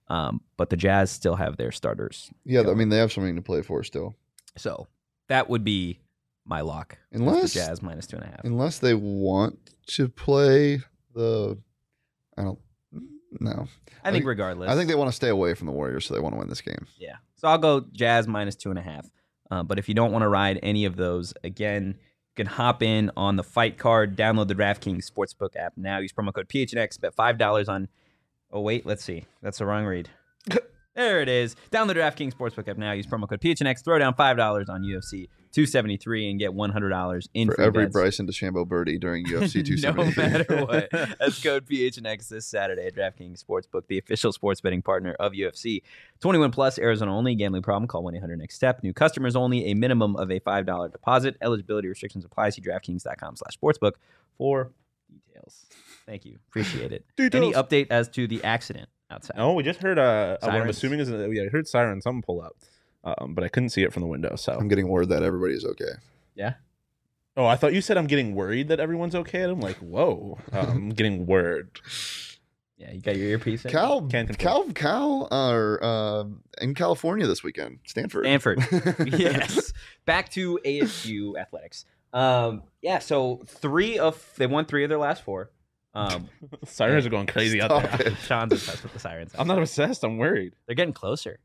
Um, but the Jazz still have their starters. Yeah, I going. mean they have something to play for still. So that would be my lock. is the Unless Jazz minus two and a half. unless they want to play the, I don't know. I think regardless. I think they want to stay away from the Warriors, so they want to win this game. Yeah. So I'll go Jazz minus two and a half. Uh, but if you don't want to ride any of those, again, you can hop in on the fight card, download the DraftKings Sportsbook app now. Use promo code P H N X, bet five dollars on. Oh, wait, let's see. That's the wrong read. There it is. Download the DraftKings Sportsbook app now. Use promo code P H N X. Throw down five dollars on U F C two seventy-three and get one hundred dollars in For free every bets. Bryson DeChambeau birdie during U F C two No seventy-three. matter what. That's code P H N X this Saturday at DraftKings Sportsbook, the official sports betting partner of U F C. twenty-one plus, Arizona only. Gambling problem? Call one eight hundred next step. New customers only. A minimum of a five dollars deposit. Eligibility restrictions apply. See DraftKings.com slash sportsbook for details. Thank you. Appreciate it. Any Details. update as to the accident outside? No, we just heard uh, what I'm Sirens. assuming is a, yeah, I heard siren, something pull up, um, but I couldn't see it from the window. So I'm getting word that everybody's okay. Yeah. oh, I thought you said I'm getting worried that everyone's okay. And I'm like, whoa, um, I'm getting word. Yeah, you got your earpiece in? Cal, Can't confirm. Cal, Cal are uh, in California this weekend. Stanford. Stanford. Yes. Back to A S U athletics. Um, yeah, so three of they won three of their last four. Um, Sirens are going crazy out Stop there. it. Sean's obsessed with the sirens. I'm not obsessed. I'm worried. They're getting closer.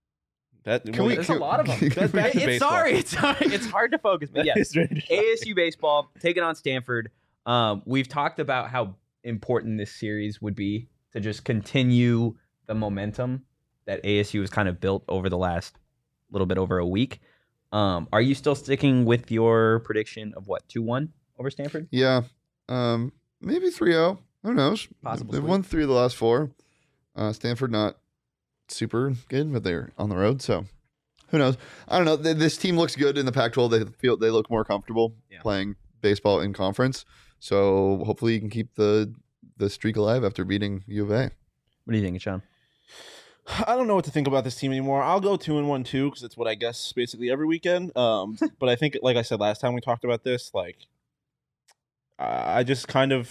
That Can we- There's can- a lot of them. can That's back to it's baseball. sorry, it's hard, it's hard to focus, but yeah. It's very A S U baseball taking on Stanford. Um, we've talked about how important this series would be to just continue the momentum that A S U has kind of built over the last little bit over a week. Um, are you still sticking with your prediction of what, two one over Stanford? Yeah. Um, maybe three oh. Who knows? Possible They've sweep. won three of the last four. Uh, Stanford not super good, but they're on the road, so who knows? I don't know. Th- This team looks good in the Pac twelve. They feel they look more comfortable Yeah. playing baseball in conference. So hopefully you can keep the the streak alive after beating U of A. What do you think, Sean? I don't know what to think about this team anymore. I'll go two and one too because it's what I guess basically every weekend. Um, but I think, like I said last time we talked about this, like I just kind of,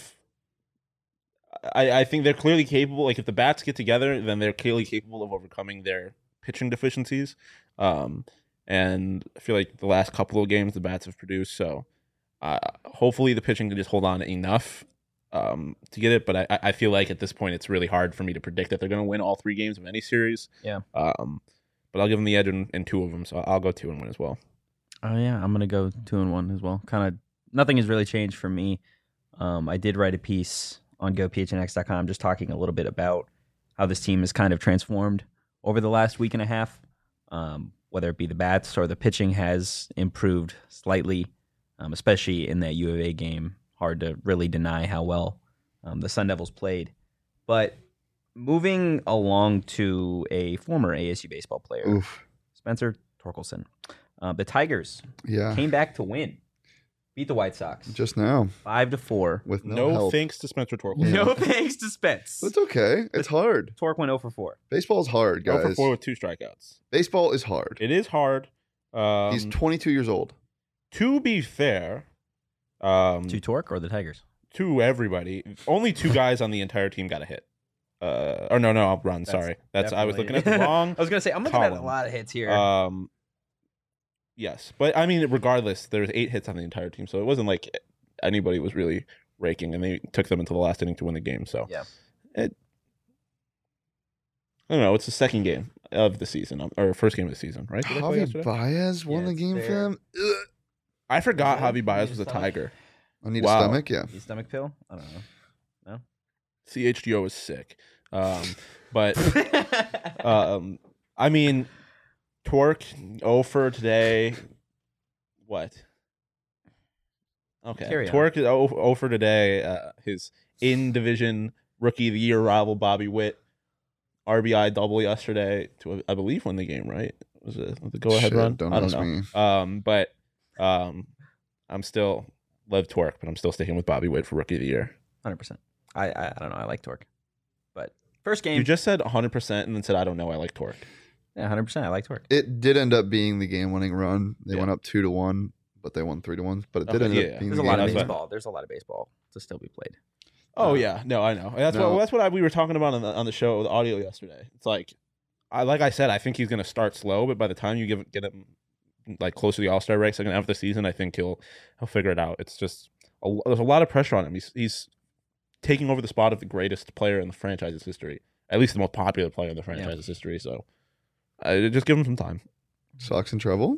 I, I think they're clearly capable. Like if the bats get together, then they're clearly capable of overcoming their pitching deficiencies. Um, and I feel like the last couple of games the bats have produced. So uh, hopefully the pitching can just hold on enough um, to get it. But I, I feel like at this point it's really hard for me to predict that they're going to win all three games of any series. Yeah. Um, but I'll give them the edge in, in two of them. So I'll go two and one as well. Oh yeah, I'm gonna go two and one as well. Kind of nothing has really changed for me. Um, I did write a piece on go p h n x dot com just talking a little bit about how this team has kind of transformed over the last week and a half. Um, whether it be the bats or the pitching has improved slightly, um, especially in that U of A game. Hard to really deny how well um, the Sun Devils played. But moving along to a former A S U baseball player, Oof. Spencer Torkelson. Uh, the Tigers Yeah. came back to win, beat the White Sox Just now five to four. with no, No, help. thanks to Spencer Torkelson. No thanks to Spence. It's okay. It's hard. Torque went zero for four. Baseball's hard, Go guys. for four with two strikeouts. Baseball is hard. It is hard. Um, He's twenty-two years old. to be fair, um, To Torque or the Tigers? to everybody, only two guys on the entire team got a hit. Uh, or no, no, I'll run. That's Sorry, that's I was looking definitely- at the wrong. I was gonna say I'm looking at a column. lot of hits here. Um, yes, but I mean, regardless, there was eight hits on the entire team, so it wasn't like anybody was really raking, and they took them into the last inning to win the game. So Yeah. it, I don't know. It's the second game of the season, um, or first game of the season, right? Did I play Javi yesterday? Baez won Yeah, the it's game there. for them. Ugh. I forgot Yeah, Javi Baez was a stomach. Tiger. I need Wow. a stomach. Yeah. Need stomach pill? I don't know. C H G O was sick, um, but um, I mean, Torque oh for today. What? Okay, Carry on. Torque is oh for today. Uh, his in division rookie of the year rival Bobby Witt, R B I double yesterday to I believe win the game. Right? Was it the go ahead Shit, run? don't I don't ask know. me. Um, but um, I'm still love Torque, but I'm still sticking with Bobby Witt for rookie of the year. one hundred percent. I, I I don't know. I like Torque, but first game. You just said one hundred percent and then said I don't know. I like Torque. yeah, one hundred percent. I like Torque. It did end up being the game-winning run. They Yeah. wend up two to one, but they won three to one. But it did Okay, end yeah, up yeah. being There's the a lot game of that's winning. what- baseball. There's a lot of baseball to still be played. Oh Uh, yeah, no, I know. That's no. what that's what I, we were talking about on the on the show, the audio yesterday. It's like, I like I said, I think he's going to start slow, but by the time you give get him like close to the All Star break, second half of the season, I think he'll he'll figure it out. It's just a, there's a lot of pressure on him. He's he's taking over the spot of the greatest player in the franchise's history, at least the most popular player in the franchise's history. So, uh, just give him some time. Sox in trouble.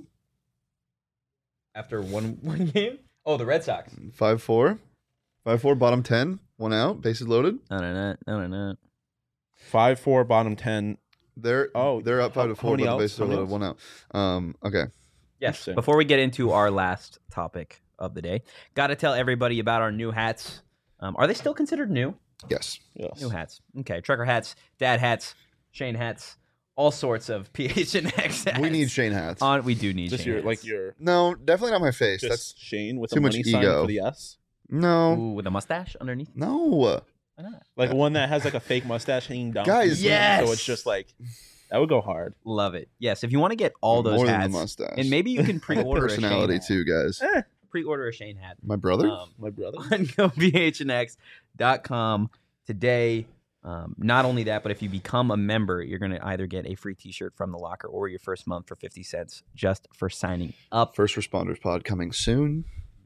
After one one game? Oh, the Red Sox. Five four. Five four. Bottom ten. One out. Bases loaded. No, no, no, no, no. Five four, bottom ten. They're Oh, they're up how- five to how four, many but the outs? bases How are many loaded. One out. Um. Okay. Yes. Interesting. Before we get into our last topic of the day, got to tell everybody about our new hats. Um, are they still considered new? Yes. Yes. New hats. Okay. Trucker hats, dad hats, Shane hats, all sorts of P H N X hats. We need Shane hats. On, we do need Just Shane your hats. like your No, definitely not my face. just That's Shane with too a much money sign ego. for the S. no, Ooh, with a mustache underneath. no. Why not? Like one that has like a fake mustache hanging down. Guys, from the chin, yes! So it's just like that would go hard. Love it. Yes. If you want to get all those More hats, than the mustache. and maybe you can pre-order a Shane personality hat. too, guys. Eh, Pre-order a Shane hat. My brother. Um, my brother. on go P H N X dot com today. Um, not only that, but if you become a member, you're going to either get a free T-shirt from the locker or your first month for fifty cents just for signing up. First responders pod coming soon.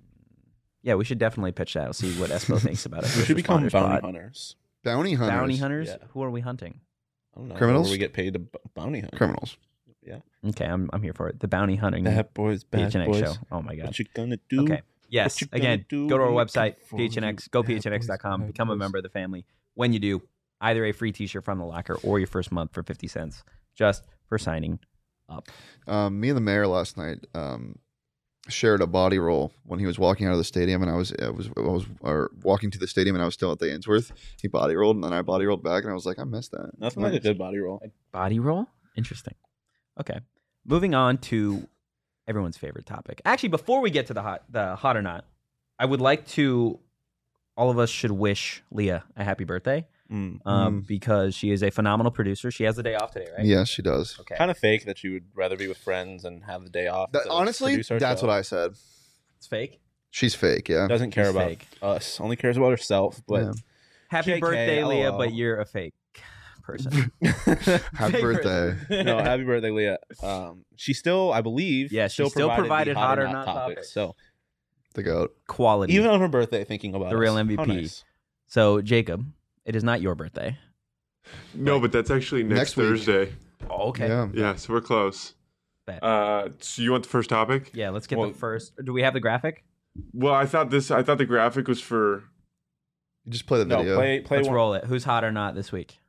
Yeah, we should definitely pitch that. We'll see what Espo thinks about it. We should become Responders bounty pod. hunters. Bounty hunters. Bounty hunters? Yeah. Who are we hunting? I don't know. Criminals? Where we get paid to b- bounty hunt. Criminals. Okay, I'm I'm here for it. The bounty hunting Bad boys, P bad H N X boys. show. Oh my god. What you gonna do? Okay. Yes. What you gonna Again, do go to our when it website, come for P H N X, you? go P H N X dot com, Bad become a boys. member of the family. When you do, either a free T-shirt from the locker or your first month for fifty cents just for signing up. Um, me and the mayor last night um, shared a body roll when he was walking out of the stadium, and I was I was I was or walking to the stadium, and I was still at the Ainsworth. He body rolled, and then I body rolled back, and I was like, I missed that. Nothing like a good body roll. Body roll? Interesting. Okay. Moving on to everyone's favorite topic. Actually, before we get to the hot the hot or not, I would like to all of us should wish Leah a happy birthday. Mm. Um, because she is a phenomenal producer. She has the day off today, right? Yes, she does. Okay. Kind of fake that you would rather be with friends and have the day off. That, honestly, that's what I said. It's fake. She's fake. Yeah. Doesn't care She's about fake. us. Only cares about herself. But Yeah. Happy J K, birthday, Leah, lol. but you're a fake person. Happy Fake birthday. no, happy birthday, Leah. Um, she still, I believe, Yeah, she still provided the hot or not topics. So The goat. Quality. even on her birthday, thinking about The real us. M V P. How nice. So, Jacob, it is not your birthday. No, but that's actually next, Next week. Thursday. Oh, okay. Yeah. Yeah, so we're close. Bet. Uh, so you want the first topic? Yeah, let's get Well- the first. Do we have the graphic? Well, I thought this. I thought the graphic was for. You just play the No, video. play, play Let's one. roll it. Who's hot or not this week?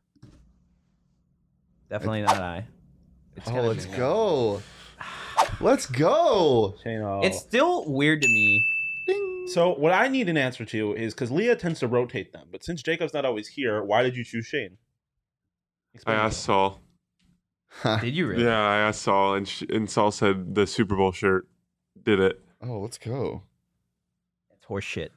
Definitely not I. It's Oh, gonna let's be- go. Let's go. Shane, oh. It's still weird to me. Ding. So what I need an answer to is because Leah tends to rotate them, but since Jacob's not always here, why did you choose Shane? I Explain to asked me. Saul. Did you really? Yeah, I asked Saul, and sh- and Saul said the Super Bowl shirt did it. Oh, let's go. It's horse shit.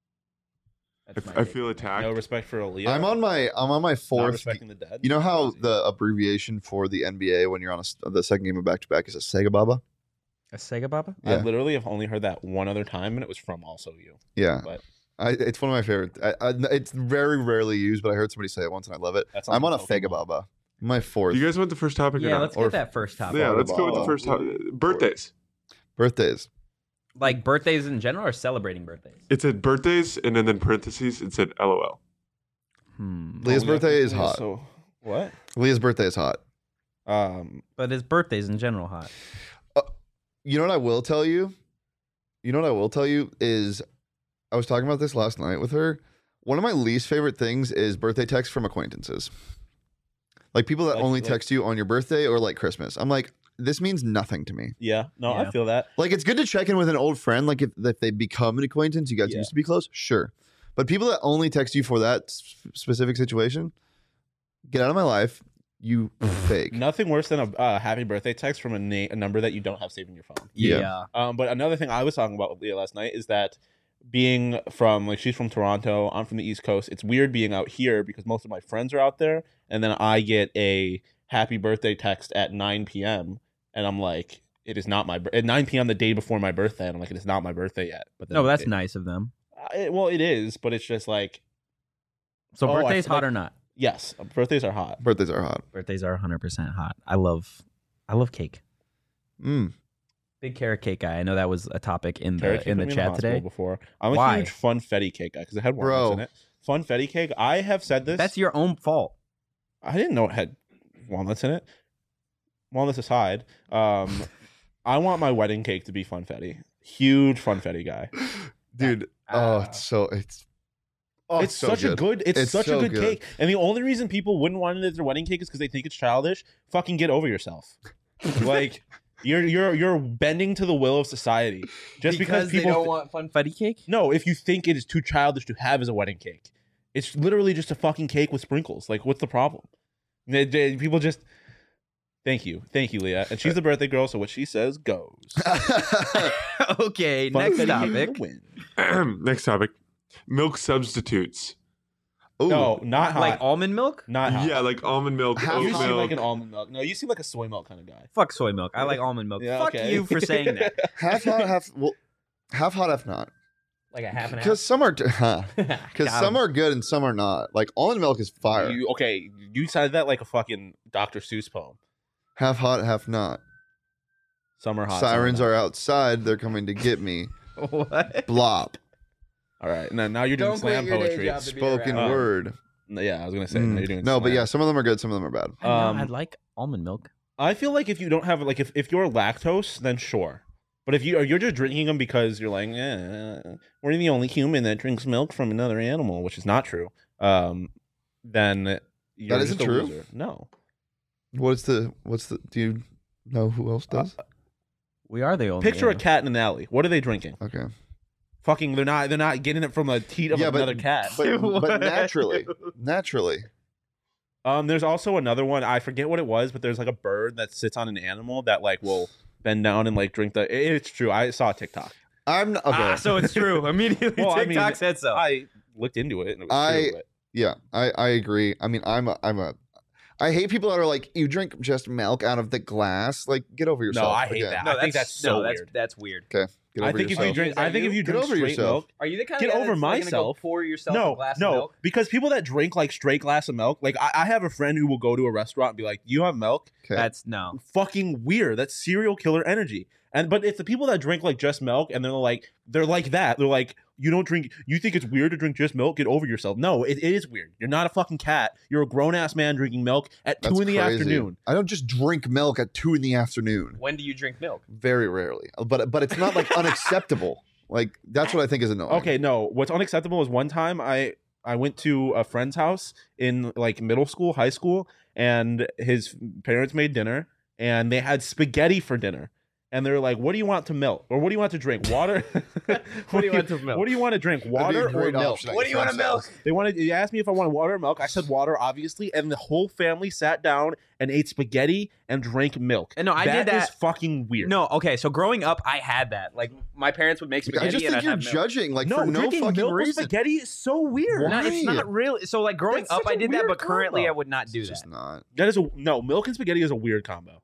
I, That's f- my I take. feel attacked. No respect for Leah. I'm on my I'm on my Not fourth. respecting the dead. You know how the abbreviation for the N B A when you're on a, s- the second game of back to back is a Sega Baba? A Sega Baba? I Yeah. literally have only heard that one other time, and it was from also you. Yeah. But I, it's one of my favorite. I, I, it's very rarely used, but I heard somebody say it once and I love it. That's I'm on a Pokemon. Fega Baba. My fourth. Do you guys want the first topic or Yeah, not? let's Or- get that first topic. yeah, let's go with the Ball. first topic. Birthdays. Birthdays. Like birthdays in general or celebrating birthdays? It said birthdays, and then in parentheses it said LOL. Hmm. Leah's Oh, birthday yeah, is hot. So what? Leah's birthday is hot. Um, But his birthday's in general hot. You know what I will tell you? You know what I will tell you is I was talking about this last night with her. One of my least favorite things is birthday texts from acquaintances. Like people that Like- only like- text you on your birthday or like Christmas. I'm like, this means nothing to me. yeah, no, Yeah. I feel that. Like it's good to check in with an old friend. Like if, if they become an acquaintance, you guys Yeah. used to be close, sure. But people that only text you for that s- specific situation, get out of my life. You fake. Nothing worse than a uh, happy birthday text from a, na- a number that you don't have saved in your phone. Yeah. Um, but another thing I was talking about with Leah last night is that being from like she's from Toronto, I'm from the East Coast. It's weird being out here because most of my friends are out there, and then I get a happy birthday text at nine p.m. and I'm like, it is not my bir- at nine p.m. the day before my birthday, and I'm like, it is not my birthday yet. But then No, but that's it, nice of them. uh, it- well, it is, but it's just like So Oh, I birthdays feel hot like- or not? Yes, birthdays are hot. Birthdays are hot. Birthdays are one hundred percent hot. I love, I love cake. Mm. Big carrot cake guy. I know that was a topic in Carrot the cake in put the me chat hospital today. Before I'm a Why? huge funfetti cake guy because it had walnuts Bro. in it. Funfetti cake. I have said this. That's your own fault. I didn't know it had walnuts in it. Walnuts aside, um, I want my wedding cake to be funfetti. Huge funfetti guy. Dude, oh, Ah. it's so it's oh, it's so such a good. It's, It's such so a good, good. cake, and the only reason people wouldn't want it as their wedding cake is because they think it's childish. Fucking get over yourself. Like you're you're you're bending to the will of society just because, people they don't thi- want funfetti cake. No, if you think it is too childish to have as a wedding cake, it's literally just a fucking cake with sprinkles. Like, what's the problem? They- they- people just. Thank you, thank you, Leah, and she's the birthday girl, so what she says goes. Okay, next Funfetti topic. win. Next topic: milk substitutes. Ooh, No, not hot. Like almond milk? not hot. Yeah, like almond milk, Half oat You hot. seem milk. like an almond milk. No, you seem like a soy milk kind of guy. Fuck soy milk. I like almond milk. Yeah, Fuck okay. you for saying that. half hot, half well, half hot, half not. Like a half and Because some are because half. some are good and some are not. Like almond milk is fire. You, okay, you said that like a fucking Doctor Seuss poem. Half hot, half not. Summer hot. Sirens summer are outside. They're coming to get me. What? Blop. not. All right. Now, now you're doing Don't quit slam your day poetry. job to be Spoken around. word. Yeah, I was gonna say. Mm. Now you're doing No, but slam. yeah, some of them are good. Some of them are bad. I, know, Um, I like almond milk. I feel like if you don't have like if, if you're lactose, then sure. But if you you're just drinking them because you're like, eh, we're the only human that drinks milk from another animal, which is not true. Um, then you're isn't just a true? loser. No. What's the what's the do you know who else does? We are the only. Picture a animal. cat in an alley. What are they drinking? Okay. Fucking, they're not. They're not getting it from a teat of Yeah, but- another cat. But, What? but naturally. Naturally. Um, there's also another one. I forget what it was, but there's like a bird that sits on an animal that like will bend down and like drink the. it- it's true. I saw a TikTok. I'm not, okay. Ah, so it's true. Immediately, Well, I TikTok mean, said so. I looked into it and it was I- true. But Yeah, I, I agree. I mean, I'm a, I'm a, I hate people that are like, you drink just milk out of the glass. Like, get over yourself. no, I hate again. that. no, I think that's so no, weird. that's that's weird. Okay, get I over think if yourself. you drink, Is that I think you? if you Get drink over straight yourself. milk. Are you the kind Get of guy over that's like, gonna go myself. pour yourself a No, glass no, of milk? because people that drink like straight glass of milk, like I, I have a friend who will go to a restaurant and be like, "You have milk?" Okay. That's no. Fucking weird. That's serial killer energy. And but it's the people that drink like just milk and they're like they're like that. They're like, you don't drink. You think it's weird to drink just milk? Get over yourself. No, it, it is weird. You're not a fucking cat. You're a grown ass man drinking milk at two That's in the crazy. afternoon. I don't just drink milk at two in the afternoon. When do you drink milk? Very rarely. But but it's not like unacceptable. Like that's what I think is annoying. Okay, no. What's unacceptable is one time I I went to a friend's house in like middle school, high school, and his parents made dinner and they had spaghetti for dinner. And they're like, "What do you want to milk, or what do you want to drink? Water? what, do you want to milk? What do you want to drink? That'd be a Water or great milk?" option at What your do you wanna friend's house. They wanted. They asked me if I wanted water or milk. I said water, obviously, and the whole family sat down and ate spaghetti and drank milk. And no, I did That is that- fucking weird. No, okay. So growing up, I had that. Like my parents would make spaghetti. I just and think I'd you're have milk. judging like no, for no drinking fucking milk with reason. spaghetti is so weird. Why? No, it's not really. So like growing That's up, such I a did that, weird but currently combo. I would not do It's that. just not. That is a no. Milk and spaghetti is a weird combo.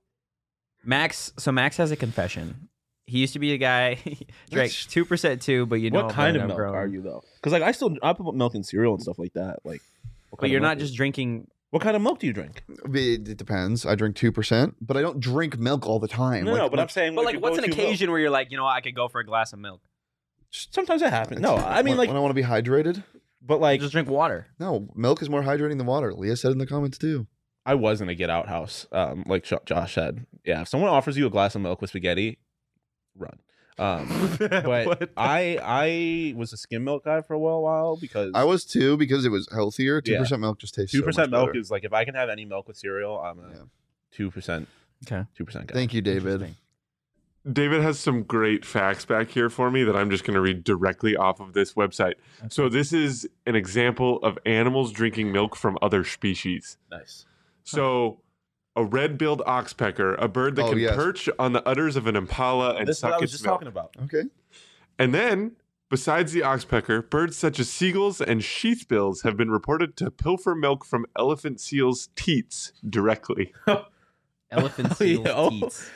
Max. So Max has a confession. He used to be a guy he drank That's- two percent too, but you know What kind but of I'm milk grown. are you though? Because like I still I put milk in cereal and stuff like that. Like, what But kind you're of not milk just is- drinking. What kind of milk do you drink? It, it depends. I drink two percent, but I don't drink milk all the time. No, Like, no, but like, I'm saying. But if like, you what's go an to milk- occasion where you're like, you know, what, I could go for a glass of milk. Sometimes it happens. No, I mean when, like, when I want to be hydrated. but like, Just drink water. No, milk is more hydrating than water. Leah said in the comments too. I was in a get out house. Um, like Jo- Josh said, yeah. If someone offers you a glass of milk with spaghetti, run. Um, but What? I I was a skim milk guy for a while, while because I was too because it was healthier. Two Yeah. percent milk just tastes. two so percent much milk better. is like if I can have any milk with cereal, I'm a Yeah. two percent Okay. two percent guy. Thank you, David. Interesting. David has some great facts back here for me that I'm just going to read directly off of this website. So this is an example of animals drinking milk from other species. Nice. So a red-billed oxpecker, a bird that Oh, can yes. perch on the udders of an impala and This is what suck I was its just milk. talking about. Okay. And then, besides the oxpecker, birds such as seagulls and sheathbills have been reported to pilfer milk from elephant seals' teats directly. Elephant seals Yeah. teats.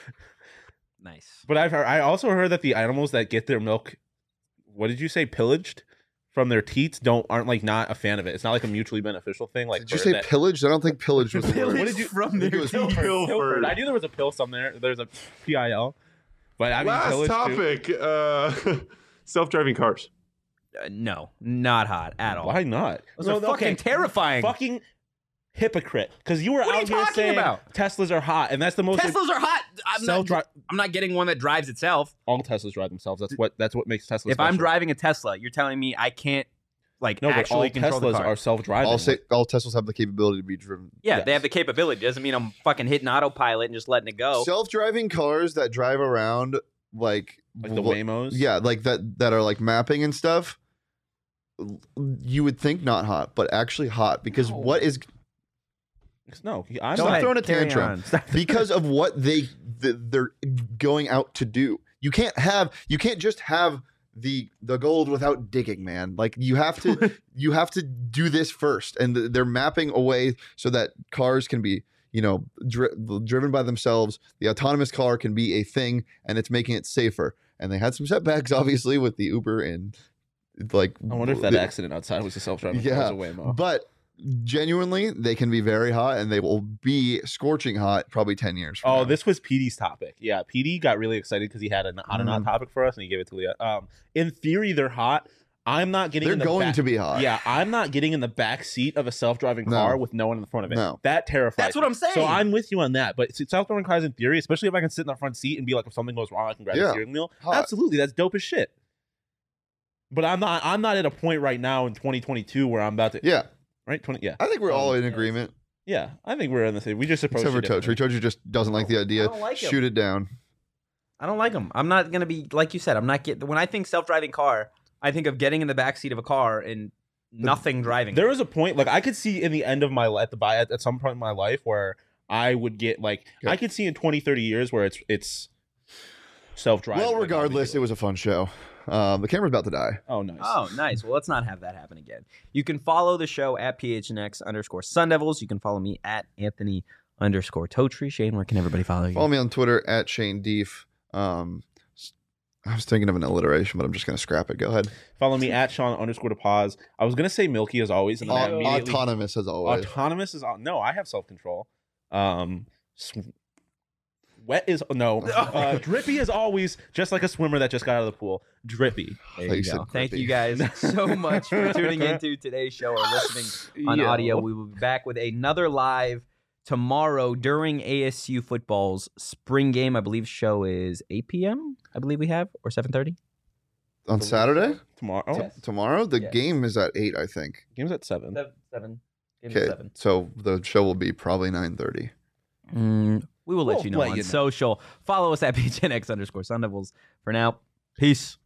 Nice. But I've heard, I also heard that the animals that get their milk, what did you say, pillaged from their teats don't aren't like not a fan of it. It's not like a mutually beneficial thing. Like Did you for say that- pillaged? I don't think pillaged was the word. What did you from I think their it was teeth. Pilfered. I knew there was a pill somewhere. There's a P I L, but I mean Last pillage too. topic: uh, self-driving cars. Uh, no, not hot at all. Why not? Those are fucking terrifying. Fucking hypocrite. Because you were What are out you here talking saying about? Teslas are hot, and that's the most. Teslas are hot. I'm not, Self-dri- I'm not getting one that drives itself. all Teslas drive themselves. That's what. That's what makes Tesla. If I'm special. driving a Tesla, you're telling me I can't like no, but all actually control the Teslas car. are self-driving. All, say, all Teslas have the capability to be driven. yeah, yes. they have the capability. Doesn't mean I'm fucking hitting autopilot and just letting it go. Self-driving cars that drive around like like the wh- Waymos. Yeah, like that that are like mapping and stuff. You would think not hot, but actually hot because No. what is No, I'm Stop not. throwing a carry tantrum. on. Stop. because of what they th- they're going out to do. You can't have you can't just have the the gold without digging, man. Like you have to you have to do this first, and th- they're mapping a way so that cars can be you know dri- driven by themselves. The autonomous car can be a thing, and it's making it safer. And they had some setbacks, obviously, with the Uber and like. I wonder if that the- accident outside was a self-driving Yeah, car. It was a Waymo. But genuinely, they can be very hot, and they will be scorching hot probably ten years. From Oh, now. this was P D's topic. Yeah, P D got really excited because he had a hot or not Mm. topic for us, and he gave it to Leah. Um, in theory, they're hot. I'm not getting. They're in the going back- to be hot. Yeah, I'm not getting in the back seat of a self-driving No. car with no one in the front of it. No. That terrifies. That's what me. I'm saying. So I'm with you on that. But self-driving cars, in theory, especially if I can sit in the front seat and be like, if something goes wrong, I can grab the Yeah. steering wheel. Hot. Absolutely, that's dope as shit. But I'm not. I'm not at a point right now in twenty twenty-two where I'm about to. Yeah, Right. twenty. Yeah. I think we're all Um, in agreement, Yeah. I think we're in the same. We just approach except for it differently. Tochi. Tochi just doesn't like the idea. I don't like 'em. Shoot it down. I don't like them. I'm not gonna be like you said. I'm not getting. When I think self-driving car, I think of getting in the back seat of a car and nothing driving. There was a point, like I could see in the end of my life, at the buy at, at some point in my life, where I would get like Yeah. I could see in twenty, thirty years where it's it's self-driving. Well, like, regardless, it was a fun show. Um, the camera's about to die. Oh, nice. Oh, nice. Well, let's not have that happen again. You can follow the show at P H N X underscore Sun Devils. You can follow me at Anthony underscore Totri. Shane, where can everybody follow you? Follow me on Twitter at Shane Deef. Um, I was thinking of an alliteration, but I'm just gonna scrap it. Go ahead. Follow me at Sean underscore to pause. I was gonna say Milky as always, and then I Au- immediately autonomous as always. autonomous is au- no. I have self control. Um, sw- wet is no. Uh, drippy is always just like a swimmer that just got out of the pool. Drippy. There Like you you said, go. Thank Grippy. you guys so much for tuning into today's show or listening on Yeah. audio. We will be back with another live tomorrow during A S U football's spring game. I believe show is eight p.m. I believe we have, or seven thirty. On Saturday, Tomorrow. Oh, Yes. tomorrow, the Yes. game is at eight, I think. game's at seven. Seven. Okay, so the show will be probably nine thirty. Mm, we will let We'll you know let on you know. social. Follow us at P H N X underscore Sun Devils. For now, peace.